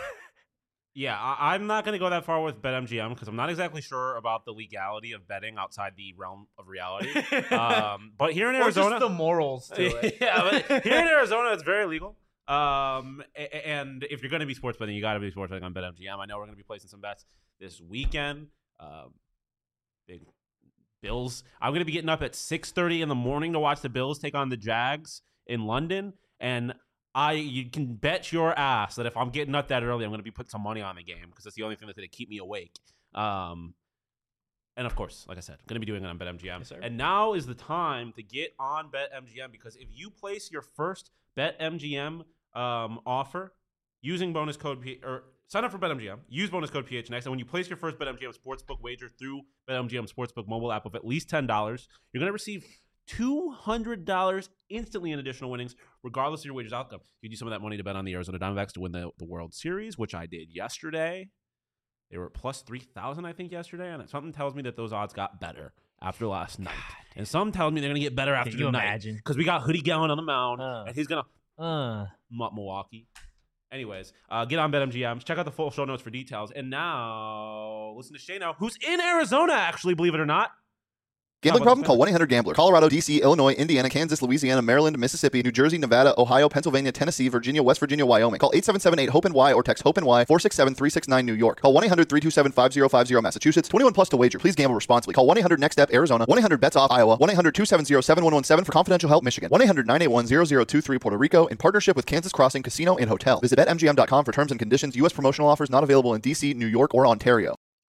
yeah, I, I'm not going to go that far with BetMGM because I'm not exactly sure about the legality of betting outside the realm of reality. um, but here in Arizona, morals yeah, but here in Arizona, it's very legal. Um, a- and if you're going to be sports betting, you got to be sports betting on BetMGM. I know we're going to be placing some bets this weekend. Um, big Bills. I'm going to be getting up at six thirty in the morning to watch the Bills take on the Jags in London, and I you can bet your ass that if I'm getting up that early, I'm going to be putting some money on the game because that's the only thing that's going to keep me awake. Um, and of course, like I said, I'm going to be doing it on BetMGM. Yes, sir. And now is the time to get on BetMGM because if you place your first BetMGM um, offer using bonus code P- or sign up for BetMGM, use bonus code P H N X, and when you place your first BetMGM sportsbook wager through BetMGM Sportsbook mobile app of at least ten dollars, you're going to receive two hundred dollars instantly in additional winnings, regardless of your wager's outcome. You can use some of that money to bet on the Arizona Diamondbacks to win the, the World Series, which I did yesterday. They were at plus three thousand, I think, yesterday, and something tells me that those odds got better after last night. And some tells me they're going to get better after Can you tonight. imagine? Because we got Hoodie Gallon on the mound, Uh. and he's going to Uh, Mutt Milwaukee. Anyways, uh, get on BetMGM. Check out the full show notes for details. And now, listen to Shay now, who's in Arizona, actually, believe it or not. Gambling How about problem? this Call guy? one eight hundred gambler. Colorado, D C, Illinois, Indiana, Kansas, Louisiana, Maryland, Mississippi, New Jersey, Nevada, Ohio, Pennsylvania, Tennessee, Virginia, West Virginia, Wyoming. Call eight seven seven eight HOPE-NY or text HOPE-NY four six seven three six nine New York. Call one eight hundred three two seven five zero five zero Massachusetts. twenty-one plus to wager. Please gamble responsibly. Call one eight hundred next step Arizona. one eight hundred bets off Iowa. one eight hundred two seven zero seven one one seven for confidential help Michigan. one eight hundred nine eight one zero zero two three Puerto Rico in partnership with Kansas Crossing Casino and Hotel. Visit bet M G M dot com for terms and conditions. U S promotional offers not available in D C, New York, or Ontario.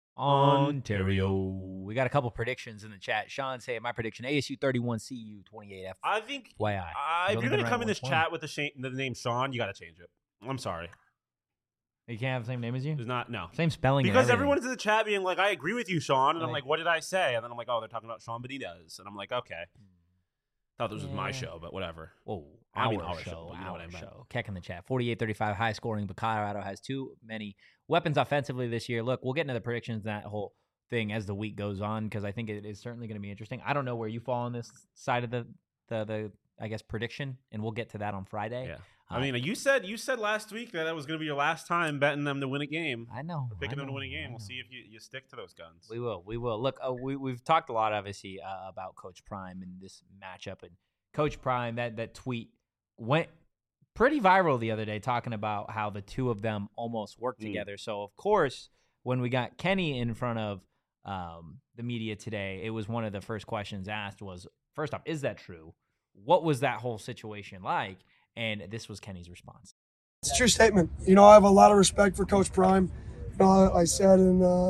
Ontario. We got a couple predictions in the chat. Sean say my prediction: A S U thirty-one, C U twenty-eight. F. I think Y I. uh, He's if only you're been going to around come in one this point. chat with the, sh- the name Sean, you got to change it. I'm sorry. You can't have the same name as you. There's not, no. Same spelling. and Because everything. everyone's in the chat being like, I agree with you, Sean. And I'm Right. like, what did I say? And then I'm like, oh, they're talking about Sean Benitez. And I'm like, okay. Thought this was my Yeah. show, but whatever. Whoa, I our mean our show, show, but you know our what I meant. show. Keck in the chat. forty-eight thirty-five high scoring, but Colorado has too many weapons offensively this year. Look, we'll get into the predictions, that whole thing as the week goes on, because I think it is certainly going to be interesting. I don't know where you fall on this side of the, the, the I guess, prediction, and we'll get to that on Friday. Yeah. Uh, I mean, you said you said last week that that was going to be your last time betting them to win a game. I know. Or picking I them to win a know, game. I We'll know. see if you, you stick to those guns. We will. We will. Look, uh, we, we've talked a lot, obviously, uh, about Coach Prime and this matchup. And Coach Prime, that, that tweet went pretty viral the other day talking about how the two of them almost worked Mm. together. So, of course, when we got Kenny in front of um, the media today, it was one of the first questions asked was, first off, is that true? What was that whole situation like? And this was Kenny's response. It's a true statement. You know, I have a lot of respect for Coach Prime. You know, I said in uh,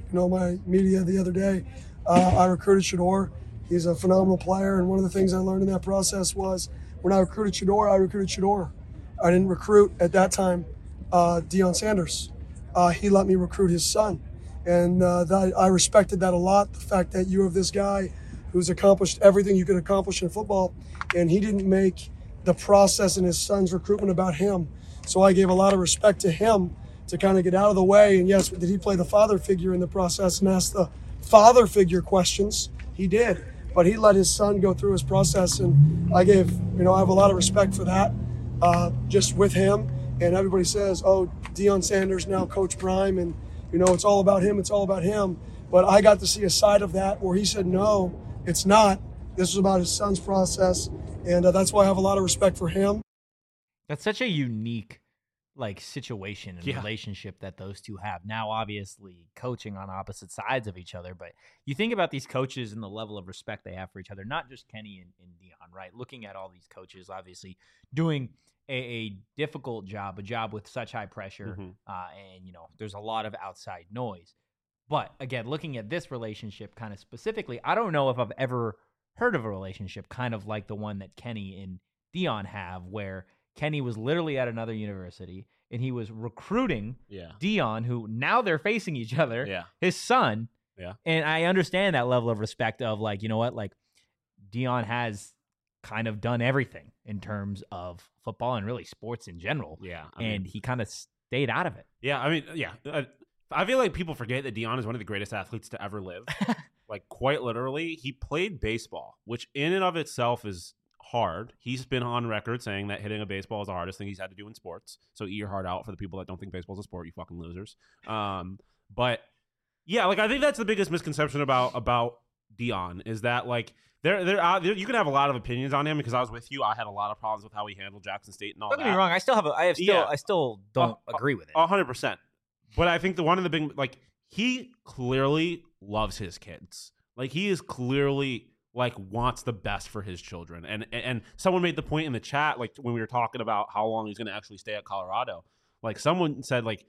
you know, my media the other day. Uh, I recruited Shedeur. He's a phenomenal player, and one of the things I learned in that process was when I recruited Shedeur, I recruited Shedeur. I didn't recruit at that time uh, Deion Sanders. Uh, he let me recruit his son, and uh, that, I respected that a lot. The fact that you have this guy who's accomplished everything you could accomplish in football, and he didn't make the process in his son's recruitment about him. So I gave a lot of respect to him to kind of get out of the way. And yes, did he play the father figure in the process and ask the father figure questions? He did, but he let his son go through his process, and I gave, you know, I have a lot of respect for that, uh, just with him. And everybody says, oh, Deion Sanders now Coach Prime, and, you know, it's all about him, it's all about him. But I got to see a side of that where he said, no, it's not. This was about his son's process, and uh, that's why I have a lot of respect for him. That's such a unique like situation and Yeah. relationship that those two have. Now, obviously, coaching on opposite sides of each other, but you think about these coaches and the level of respect they have for each other, not just Kenny and, and Deion, right? Looking at all these coaches, obviously, doing a, a difficult job, a job with such high pressure, Mhm. uh, and, you know, there's a lot of outside noise. But, again, looking at this relationship kind of specifically, I don't know if I've ever heard of a relationship kind of like the one that Kenny and Deion have, where Kenny was literally at another university and he was recruiting Yeah. Deion, who now they're facing each other, Yeah. his son. Yeah. And I understand that level of respect of like, you know what, like Deion has kind of done everything in terms of football and really sports in general. Yeah. I and mean, he kind of stayed out of it. yeah. I mean, yeah. Uh, I feel like people forget that Deion is one of the greatest athletes to ever live. Like, quite literally, he played baseball, which in and of itself is hard. He's been on record saying that hitting a baseball is the hardest thing he's had to do in sports. So eat your heart out for the people that don't think baseball is a sport, you fucking losers. Um, but yeah, like I think that's the biggest misconception about about Deion is that like there there, uh, there you can have a lot of opinions on him because I was with you. I had a lot of problems with how he handled Jackson State and all Don't that. get me wrong, I still have a, I have still Yeah. I still don't Uh, agree with it. A hundred percent. But I think the one of the big like he clearly loves his kids. Like he is clearly like wants the best for his children. And and someone made the point in the chat, like when we were talking about how long he's gonna actually stay at Colorado. Like someone said, like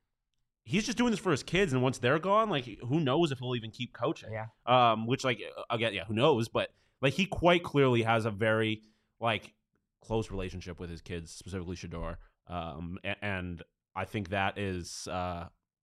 he's just doing this for his kids, and once they're gone, like who knows if he'll even keep coaching. Yeah. Um, which like again, yeah, who knows? But like he quite clearly has a very like close relationship with his kids, specifically Shedeur. Um, and, and I think that is uh,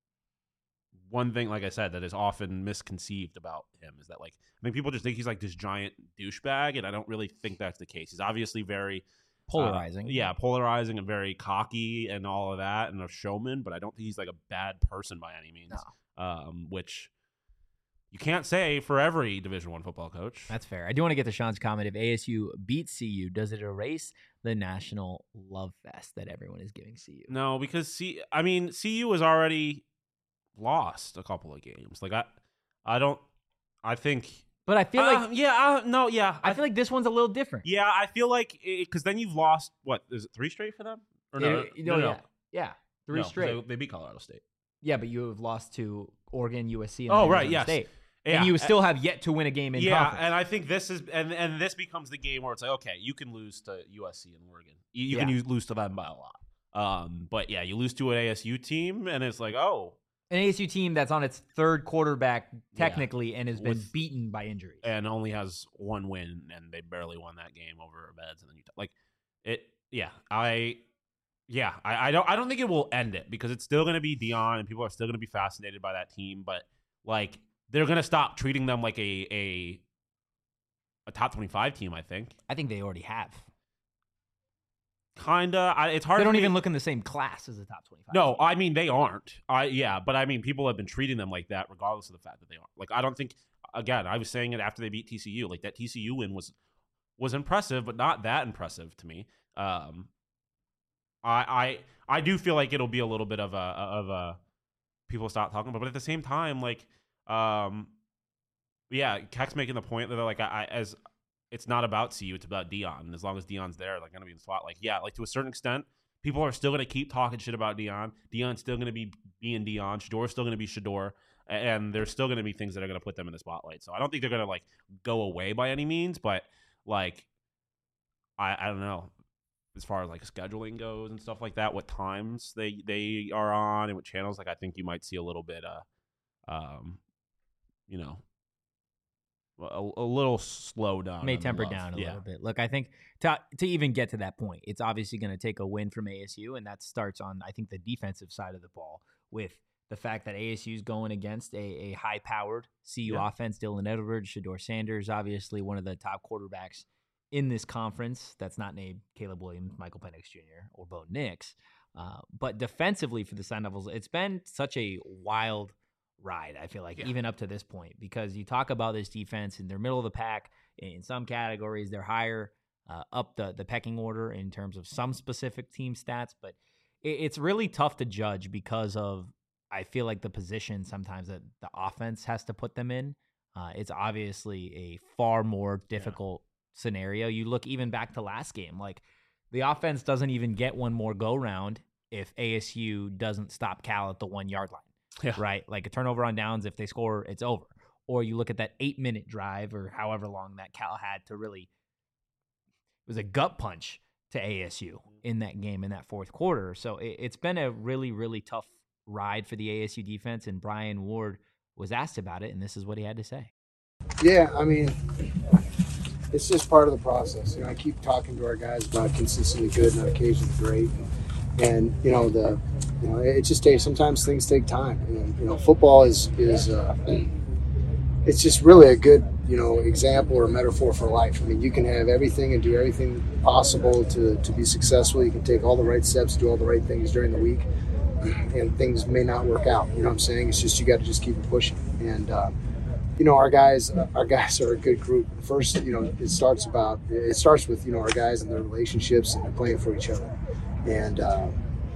one thing, like I said, that is often misconceived about him is that, like, I think people just think he's like this giant douchebag, and I don't really think that's the case. He's obviously very Polarizing. uh, yeah, polarizing and very cocky and all of that, and a showman. But I don't think he's like a bad person by any means. Um, which you can't say for every Division One football coach. That's fair. I do want to get to Sean's comment. If A S U beats C U, does it erase the national love fest that everyone is giving C U? No, because C, I mean, C U has already lost a couple of games. Like I, I don't, I think. But I feel Uh, like yeah, uh, no, yeah, I feel like this one's a little different. yeah, I feel like because then you've lost what is it three straight for them? Or no, It- no, no, no, yeah, yeah, three No, straight. They, they beat Colorado State. Yeah, but you have lost to Oregon, U S C, and Oh, then right, Arizona yes. State. Yeah, and you uh, still have yet to win a game in yeah, conference. and I think this is and and this becomes the game where it's like, okay, you can lose to U S C and Oregon. You, you can Yeah. use, lose to them by a lot. Um, but yeah, you lose to an A S U team, and it's like, oh, An A S U team that's on its third quarterback technically and has been With- beaten by injuries. and only has one win, and they barely won that game over Meds, and then you t- like it. Yeah, I, yeah, I, I don't, I don't think it will end it because it's still going to be Deion, and people are still going to be fascinated by that team. But like, they're going to stop treating them like a a a top twenty-five team. I think I think they already have. kinda. I, it's hard. They for don't me- even look in the same class as the top twenty-five. No, team. I mean they aren't. I yeah, but I mean people have been treating them like that regardless of the fact that they aren't. Like I don't think again, I was saying it after they beat T C U. Like that T C U win was was impressive, but not that impressive to me. Um I I I do feel like it'll be a little bit of a of a people stop talking about, but at the same time, like um yeah, Keck's making the point that they're like I, I as it's not about C U, it's about Deion. And as long as Deion's there, they're gonna be in the spot. Like, yeah, like to a certain extent, people are still gonna keep talking shit about Deion. Deion's still gonna be being Deion. Shedeur's still gonna be Shedeur. And there's still gonna be things that are gonna put them in the spotlight. So I don't think they're gonna like go away by any means, but like I I don't know. As far as like scheduling goes and stuff like that, what times they they are on and what channels, like I think you might see a little bit uh um, you know, a, a little slow down. May on the temper love. down a yeah. little bit. Look, I think to to even get to that point, it's obviously going to take a win from A S U, and that starts on, I think, the defensive side of the ball with the fact that A S U is going against a, a high-powered C U Yeah. offense. Dylan Edwards, Shedeur Sanders, obviously one of the top quarterbacks in this conference that's not named Caleb Williams, Michael Penix Junior, or Bo Nix. Uh, but defensively for the Sun Devils, it's been such a wild ride, I feel like, Yeah. even up to this point, because you talk about this defense and they're middle of the pack. In some categories, they're higher uh, up the, the pecking order in terms of some specific team stats, but it, it's really tough to judge because of, I feel like, the position sometimes that the offense has to put them in. Uh, it's obviously a far more difficult yeah. scenario. You look even back to last game, like the offense doesn't even get one more go round if A S U doesn't stop Cal at the one yard line. Yeah. Right? Like a turnover on downs, if they score, it's over. Or you look at that eight minute drive or however long that Cal had to really, it was a gut punch to A S U in that game in that fourth quarter. So it, it's been a really, really tough ride for the A S U defense. And Brian Ward was asked about it, and this is what he had to say. Yeah, I mean, it's just part of the process. You know, I keep talking to our guys about consistently good and on occasion great. And, and you know, the you know, it just takes, sometimes things take time. And, you know, football is, is uh, it's just really a good, you know, example or metaphor for life. I mean, you can have everything and do everything possible to, to be successful. You can take all the right steps, do all the right things during the week, and things may not work out. You know what I'm saying? It's just, you got to just keep it pushing. And, uh, you know, our guys, our guys are a good group. First, you know, it starts about, it starts with, you know, our guys and their relationships and they're playing for each other. And, uh,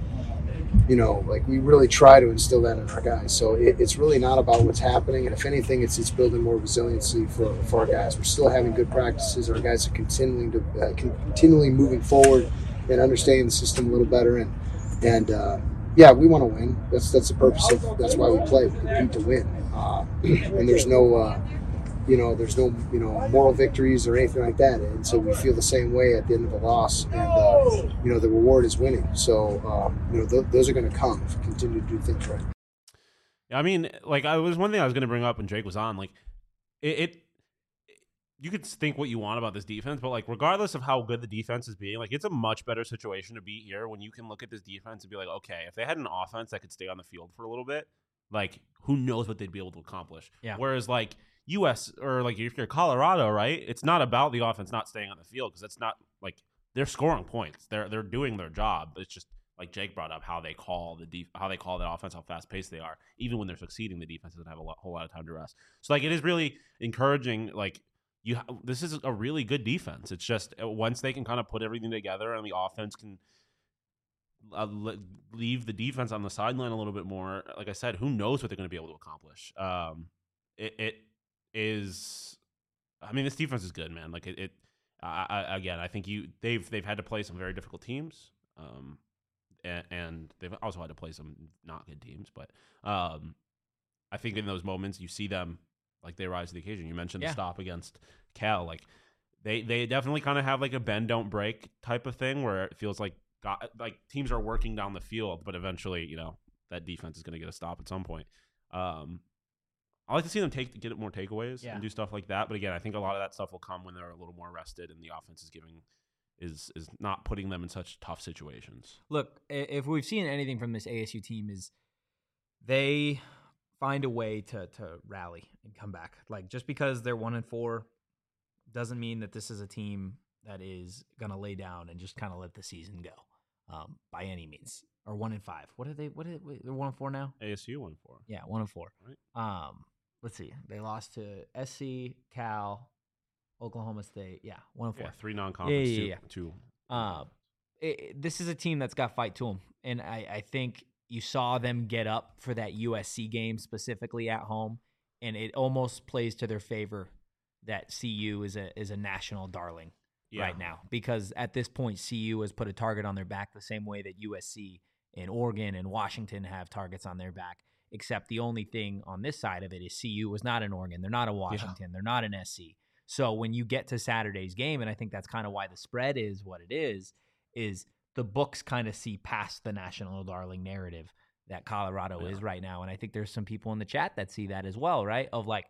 you know, like we really try to instill that in our guys. So it, it's really not about what's happening. And if anything, it's it's building more resiliency for, for our guys. We're still having good practices. Our guys are continuing to uh, continually moving forward and understanding the system a little better. And, and uh, yeah, we want to win. That's that's the purpose of, that's why we play. We compete to win. Uh, and there's no, uh, you know, there's no, you know, moral victories or anything like that. And so we feel the same way at the end of a loss. And, uh, you know, the reward is winning. So, um, you know, th- those are going to come if we continue to do things right. Yeah, I mean, like, I was one thing I was going to bring up when Jake was on. Like, it, it, you could think what you want about this defense, but, like, regardless of how good the defense is being, like, it's a much better situation to be here when you can look at this defense and be like, okay, if they had an offense that could stay on the field for a little bit, like, who knows what they'd be able to accomplish. Yeah. Whereas, like, U S or like if you're Colorado, right? It's not about the offense not staying on the field because that's not like they're scoring points. They're they're doing their job. It's just like Jake brought up how they call the def- how they call that offense, how fast paced they are. Even when they're succeeding, the defense doesn't have a lot, whole lot of time to rest. So like it is really encouraging. Like you, ha- this is a really good defense. It's just uh, once they can kind of put everything together and the offense can uh, le- leave the defense on the sideline a little bit more. Like I said, who knows what they're going to be able to accomplish? Um, it. it is I mean this defense is good, man. Like it, it I, I, again I think you they've they've had to play some very difficult teams, um, and, and they've also had to play some not good teams. But um, I think in those moments you see them like they rise to the occasion. You mentioned Yeah. the stop against Cal, like they they definitely kind of have like a bend don't break type of thing where it feels like God, like teams are working down the field, but eventually you know that defense is going to get a stop at some point. Um, I like to see them take get more takeaways Yeah. and do stuff like that. But again, I think a lot of that stuff will come when they're a little more rested and the offense is giving is is not putting them in such tough situations. Look, i- if we've seen anything from this A S U team is they find a way to to rally and come back. Like just because they're one and four doesn't mean that this is a team that is gonna lay down and just kind of let the season go um, by any means. Or one and five. What are they? What are they? They're one and four now. A S U won four. Yeah, one and four. Right. Um, let's see. They lost to S C, Cal, Oklahoma State. Yeah, one and four. Yeah, three non-conference. Yeah, yeah, yeah. Two. two Uh, it, it- this is a team that's got fight to them, and I, I think you saw them get up for that U S C game specifically at home, and it almost plays to their favor that C U is a is a national darling Yeah. right now because at this point C U has put a target on their back the same way that U S C and Oregon and Washington have targets on their back. Except the only thing on this side of it is C U was not an Oregon, they're not a Washington, they're not an S C. So when you get to Saturday's game, and I think that's kind of why the spread is what it is, is the books kind of see past the national darling narrative that Colorado Yeah. is right now. And I think there's some people in the chat that see that as well, right? Of like,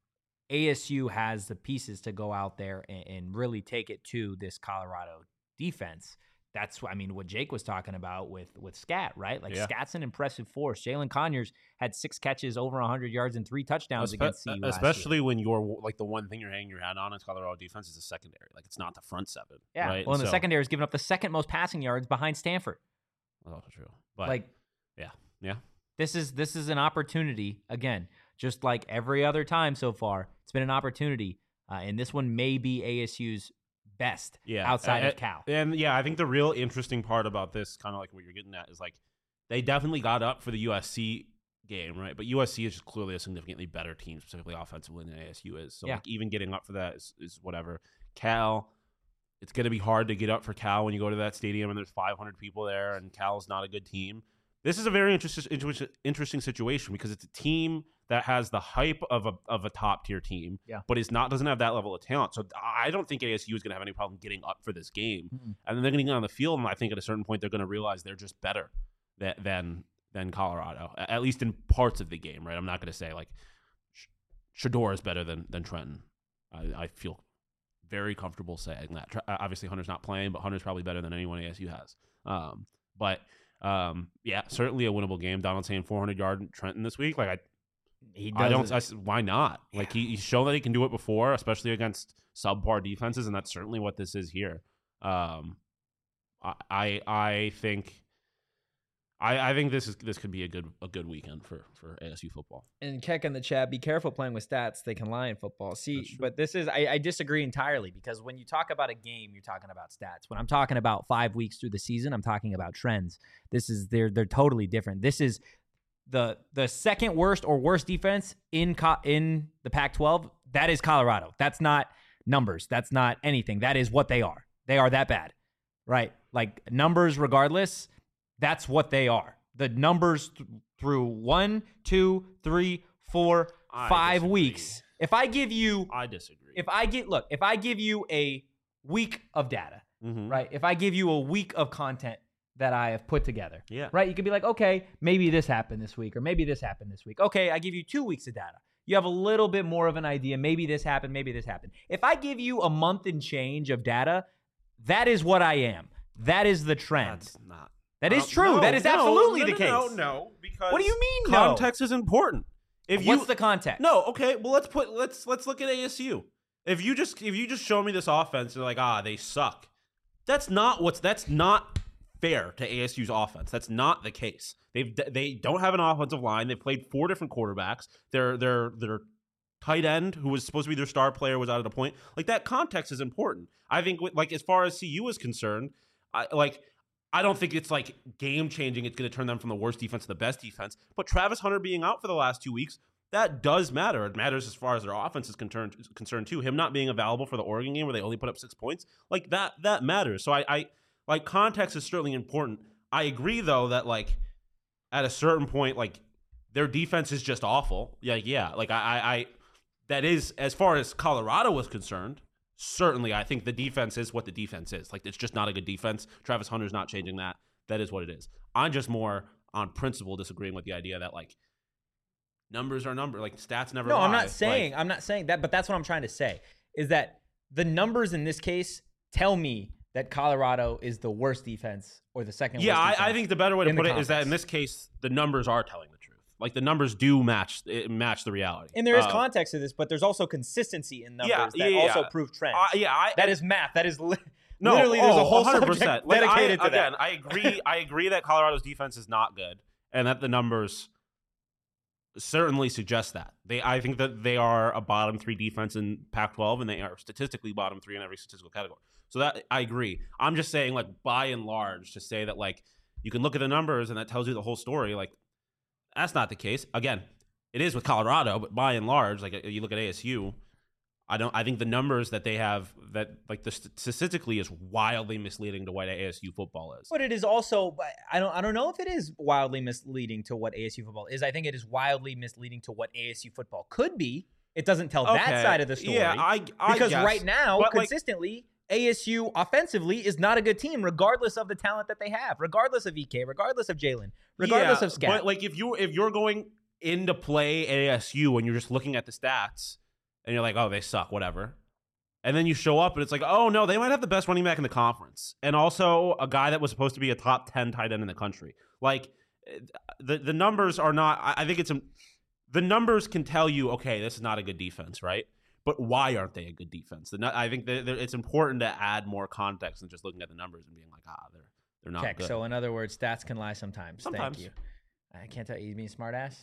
A S U has the pieces to go out there and, and really take it to this Colorado defense. That's what I mean, what Jake was talking about with with Scat, right? Like Yeah. Scat's an impressive force. Jalen Conyers had six catches, over one hundred yards, and three touchdowns Espe- against C U last especially year. when you're like the one thing you're hanging your hat on is Colorado defense is the secondary. Like it's not the front seven. Yeah. Right? Well, and the So- secondary is giving up the second most passing yards behind Stanford. That's also true. But like, yeah, yeah. This is this is an opportunity again, just like every other time so far. It's been an opportunity, uh, and this one may be A S U's best Yeah, outside uh, of Cal. And yeah, I think the real interesting part about this, kind of like what you're getting at, is like they definitely got up for the U S C game, right? But U S C is just clearly a significantly better team, specifically offensively, than A S U is. So Yeah. like even getting up for that is, is whatever. Cal, it's going to be hard to get up for Cal when you go to that stadium and there's five hundred people there, and Cal's not a good team. This is a very interesting interesting situation because it's a team that has the hype of a of a top tier team, Yeah. but is not doesn't have that level of talent. So I don't think A S U is going to have any problem getting up for this game. Mm-mm. And then they're going to get on the field, and I think at a certain point they're going to realize they're just better than than, than Colorado, at least in parts of the game. Right? I'm not going to say like Shedeur is better than than Trenton. I, I feel very comfortable saying that. Obviously, Hunter's not playing, but Hunter's probably better than anyone A S U has. Um, but um, yeah, certainly a winnable game. Donald saying four hundred yard Trenton this week. Like I, He I don't. does I, why not? Like he, he's shown that he can do it before, especially against subpar defenses, and that's certainly what this is here. Um, I, I, I think. I, I think this is this could be a good a good weekend for, for A S U football. And Keck in the chat, be careful playing with stats. They can lie in football. That's See, true. But this is, I, I disagree entirely because when you talk about a game, you're talking about stats. When I'm talking about five weeks through the season, I'm talking about trends. This is, they're they're totally different. This is the the second worst or worst defense in co- in the Pac twelve. That is Colorado. That's not numbers. That's not anything. That is what they are. They are that bad, right? Like numbers, regardless. That's what they are. The numbers th- through one, two, three, four, I five disagree. weeks. If I give you, I disagree. if I get, look, if I give you a week of data, Mhm. right? If I give you a week of content that I have put together, Yeah. right? You could be like, okay, maybe this happened this week, or maybe this happened this week. Okay, I give you two weeks of data. You have a little bit more of an idea. Maybe this happened, maybe this happened. If I give you a month and change of data, that is what I am. That is the trend. That's not. That is Uh, true. no, that is no, absolutely no, the no, case. No, no, because What do you mean, no? context is important. If you What's the context? no, okay, well let's put let's let's look at A S U. If you just if you just show me this offense and like ah they suck, that's not what's that's not fair to A S U's offense. That's not the case. They've they don't have an offensive line. They've played four different quarterbacks. Their their their tight end, who was supposed to be their star player, was out at a point. Like that context is important. I think like as far as C U is concerned, I like. I don't think it's like game changing. It's going to turn them from the worst defense to the best defense. But Travis Hunter being out for the last two weeks, that does matter. It matters as far as their offense is concerned, concerned too. Him not being available for the Oregon game where they only put up six points, like that, that matters. So I, I like context is certainly important. I agree though that like at a certain point, like their defense is just awful. Yeah, yeah. Like I, I, I that is as far as Colorado was concerned. Certainly, I think the defense is what the defense is. Like, it's just not a good defense. Travis Hunter's not changing that. That is what it is. I'm just more on principle disagreeing with the idea that, like, numbers are number. Like, stats never No, lie. I'm not saying Like, I'm not saying that, but that's what I'm trying to say is that the numbers in this case tell me that Colorado is the worst defense or the second yeah, worst I, defense. I think the better way to in the put it is that in conference. this case, the numbers are telling the truth. Like, the numbers do match it match the reality. And there is Uh, context to this, but there's also consistency in numbers Yeah, that yeah, yeah, also yeah. prove trends. Uh, yeah, I, that is math. That is li- No, literally there's oh, a whole one hundred subject percent. Like, dedicated I, to again, that. I agree. I agree that Colorado's defense is not good, and that the numbers certainly suggest that. They, I think that they are a bottom three defense in Pac twelve, and they are statistically bottom three in every statistical category. So that I agree. I'm just saying, like by and large, to say that like you can look at the numbers and that tells you the whole story. Like that's not the case. Again, it is with Colorado, but by and large, like you look at A S U. I don't. I think the numbers that they have, that like the st- statistically, is wildly misleading to what A S U football is. But it is also I don't I don't know if it is wildly misleading to what A S U football is. I think it is wildly misleading to what A S U football could be. It doesn't tell that Okay. side of the story. Yeah, I, I because guess. right now, But, like, consistently, A S U offensively is not a good team, regardless of the talent that they have, regardless of E K, regardless of Jalen, regardless yeah, of Scat. But like if you if you're going into play A S U and you're just looking at the stats and you're like, oh, they suck, whatever. And then you show up and it's like, oh no, they might have the best running back in the conference. And also a guy that was supposed to be a top ten tight end in the country. Like the the numbers are not, I, I think it's, a, the numbers can tell you, okay, this is not a good defense, right? But why aren't they a good defense? The, I think that it's important to add more context than just looking at the numbers and being like, ah, they're they're not Keck, good. so in other words, stats can lie sometimes. Sometimes. Thank you. I can't tell you. You mean smart ass?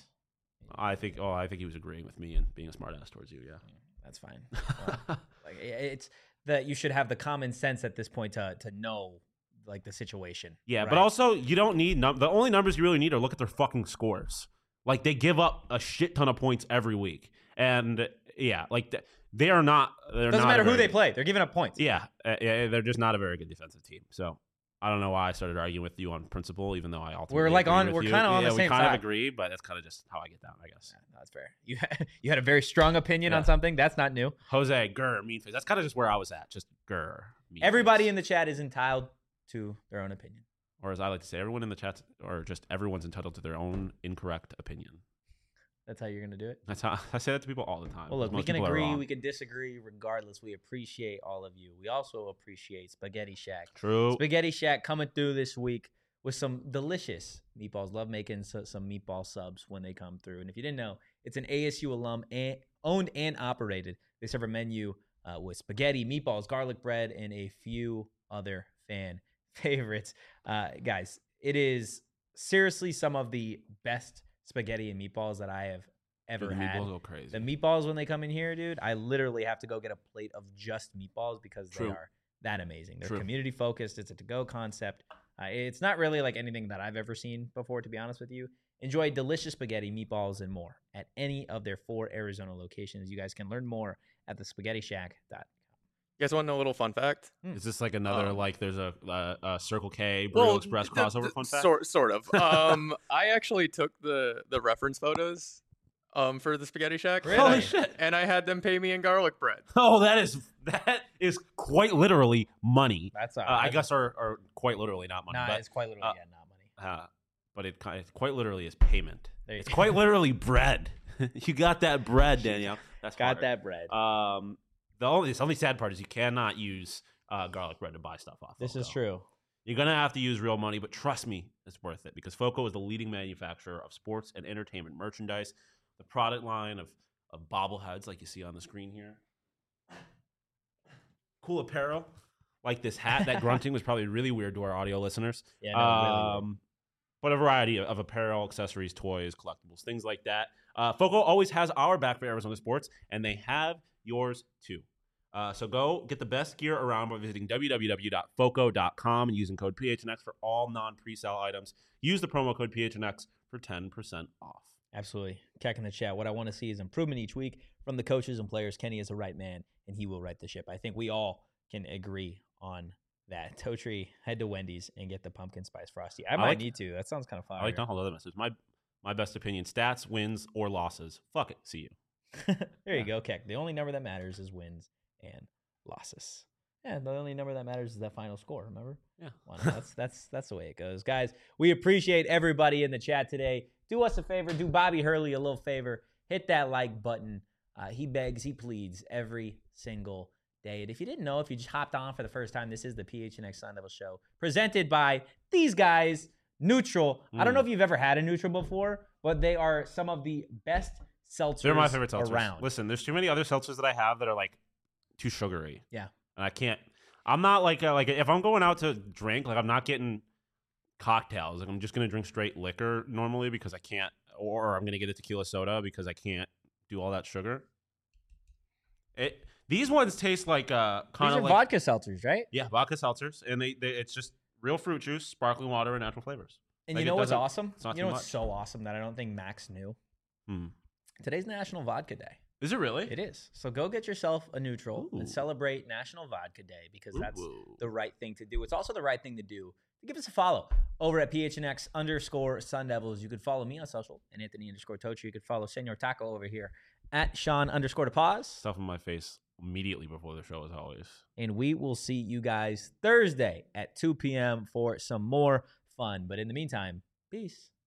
I think, oh, I think he was agreeing with me and being a smart ass towards you, yeah. That's fine. Well, like it's that you should have the common sense at this point to to know like the situation. Yeah, right? but also you don't need num- the only numbers you really need are look at their fucking scores. Like they give up a shit ton of points every week, and yeah, like th- they are not. They're doesn't not matter a who very they good- play; they're giving up points. Yeah, uh, yeah, they're just not a very good defensive team. So I don't know why I started arguing with you on principle, even though I ultimately We're like agree on- with we're you. kinda on yeah, the same we kind side. of agree, but that's kind of just how I get down, I guess. Yeah, no, that's fair. You had, you had a very strong opinion Yeah. on something. That's not new. Jose Grr mean face. That's kind of just where I was at. Just Grr. Mean Everybody face. in the chat is entitled to their own opinion. or as I like to say, everyone in the chat, or just everyone's entitled to their own incorrect opinion. That's how you're gonna do it. That's how I say that to people all the time. Well, look, we Most can people are agree, wrong. we can disagree. Regardless, we appreciate all of you. We also appreciate Spaghetti Shack. True. Spaghetti Shack coming through this week with some delicious meatballs. Love making so, some meatball subs when they come through. And if you didn't know, it's an A S U alum and owned and operated. They serve a menu uh, with spaghetti, meatballs, garlic bread, and a few other fan favorites. Uh, guys, it is seriously some of the best spaghetti and meatballs that I have ever Dude, the had. meatballs go crazy. The meatballs, when they come in here, dude, I literally have to go get a plate of just meatballs because True. they are that amazing. They're True. community focused. It's a to-go concept. Uh, it's not really like anything that I've ever seen before, to be honest with you. Enjoy delicious spaghetti, meatballs, and more at any of their four Arizona locations. You guys can learn more at the spaghetti shack dot com. You guys want to know a little fun fact? Is this like another Um, like there's a, a, a Circle K Burrito Express the- crossover the- fun fact? Sort, sort of. Um, I actually took the the reference photos um for the Spaghetti Shack. Really? and Holy I- shit. And I had them pay me in garlic bread. Oh, that is that is quite literally money. That's Uh, I guess or, or quite literally not money, Nah, but it's quite literally uh, yeah, not money. uh, but it, ki- it quite literally is payment. There you It's go. quite literally bread. You got that bread, Danielle. That's Got hard. that bread. Um, the only the only sad part is you cannot use uh, garlic bread to buy stuff off. This is Foco. true. You're gonna have to use real money, but trust me, it's worth it because Foco is the leading manufacturer of sports and entertainment merchandise. The product line of of bobbleheads, like you see on the screen here, cool apparel, like this hat. That grunting was probably really weird to our audio listeners. Yeah, no, really weird. um, but a variety of, of apparel, accessories, toys, collectibles, things like that. Uh, Foco always has our back for Arizona sports, and they have yours too. Uh, so go get the best gear around by visiting w w w dot foco dot com and using code P H N X for all non-presale items. Use the promo code P H N X for ten percent off. Absolutely. Keck in the chat. What I want to see is improvement each week from the coaches and players. Kenny is the right man, and he will right the ship. I think we all can agree on that. Totri, head to Wendy's and get the pumpkin spice frosty. I, I might like- need to. That sounds kind of fire. I like to hold other messages. My my best opinion: stats, wins, or losses. Fuck it. See you. There you go, Keck. The only number that matters is wins and losses. Yeah, the only number that matters is that final score. Remember? Yeah. Well, no, that's that's that's the way it goes, guys. We appreciate everybody in the chat today. Do us a favor. Do Bobby Hurley a little favor. Hit that like button. Uh, he begs, he pleads every single day. And if you didn't know, if you just hopped on for the first time, this is the P H N X Sun Devil Show presented by these guys, Neutral. I don't know Mm. if you've ever had a Neutral before, but they are some of the best seltzers They're my favorite seltzers. around. Listen, there's too many other seltzers that I have that are like too sugary. Yeah. And I can't. I'm not like a, like if I'm going out to drink, like I'm not getting cocktails. Like I'm just gonna drink straight liquor normally because I can't, or I'm gonna get a tequila soda because I can't do all that sugar. It these ones taste like uh These kind are of like vodka seltzers, right? yeah vodka seltzers, and they, they it's just real fruit juice, sparkling water, and natural flavors. And Like, you it know what's doesn't- awesome? it's not You too know what's much. so awesome that I don't think Max knew? Hmm. Today's National Vodka Day. Is it really? It is. So go get yourself a neutral Ooh. and celebrate National Vodka Day because that's Ooh. the right thing to do. It's also the right thing to do to give us a follow over at P H N X underscore Sun Devils. You could follow me on social and Anthony underscore Tochi. You could follow Senor Taco over here at Sean underscore to pause. Stuff in my face immediately before the show, as always. And we will see you guys Thursday at two p.m. for some more fun. But in the meantime, peace.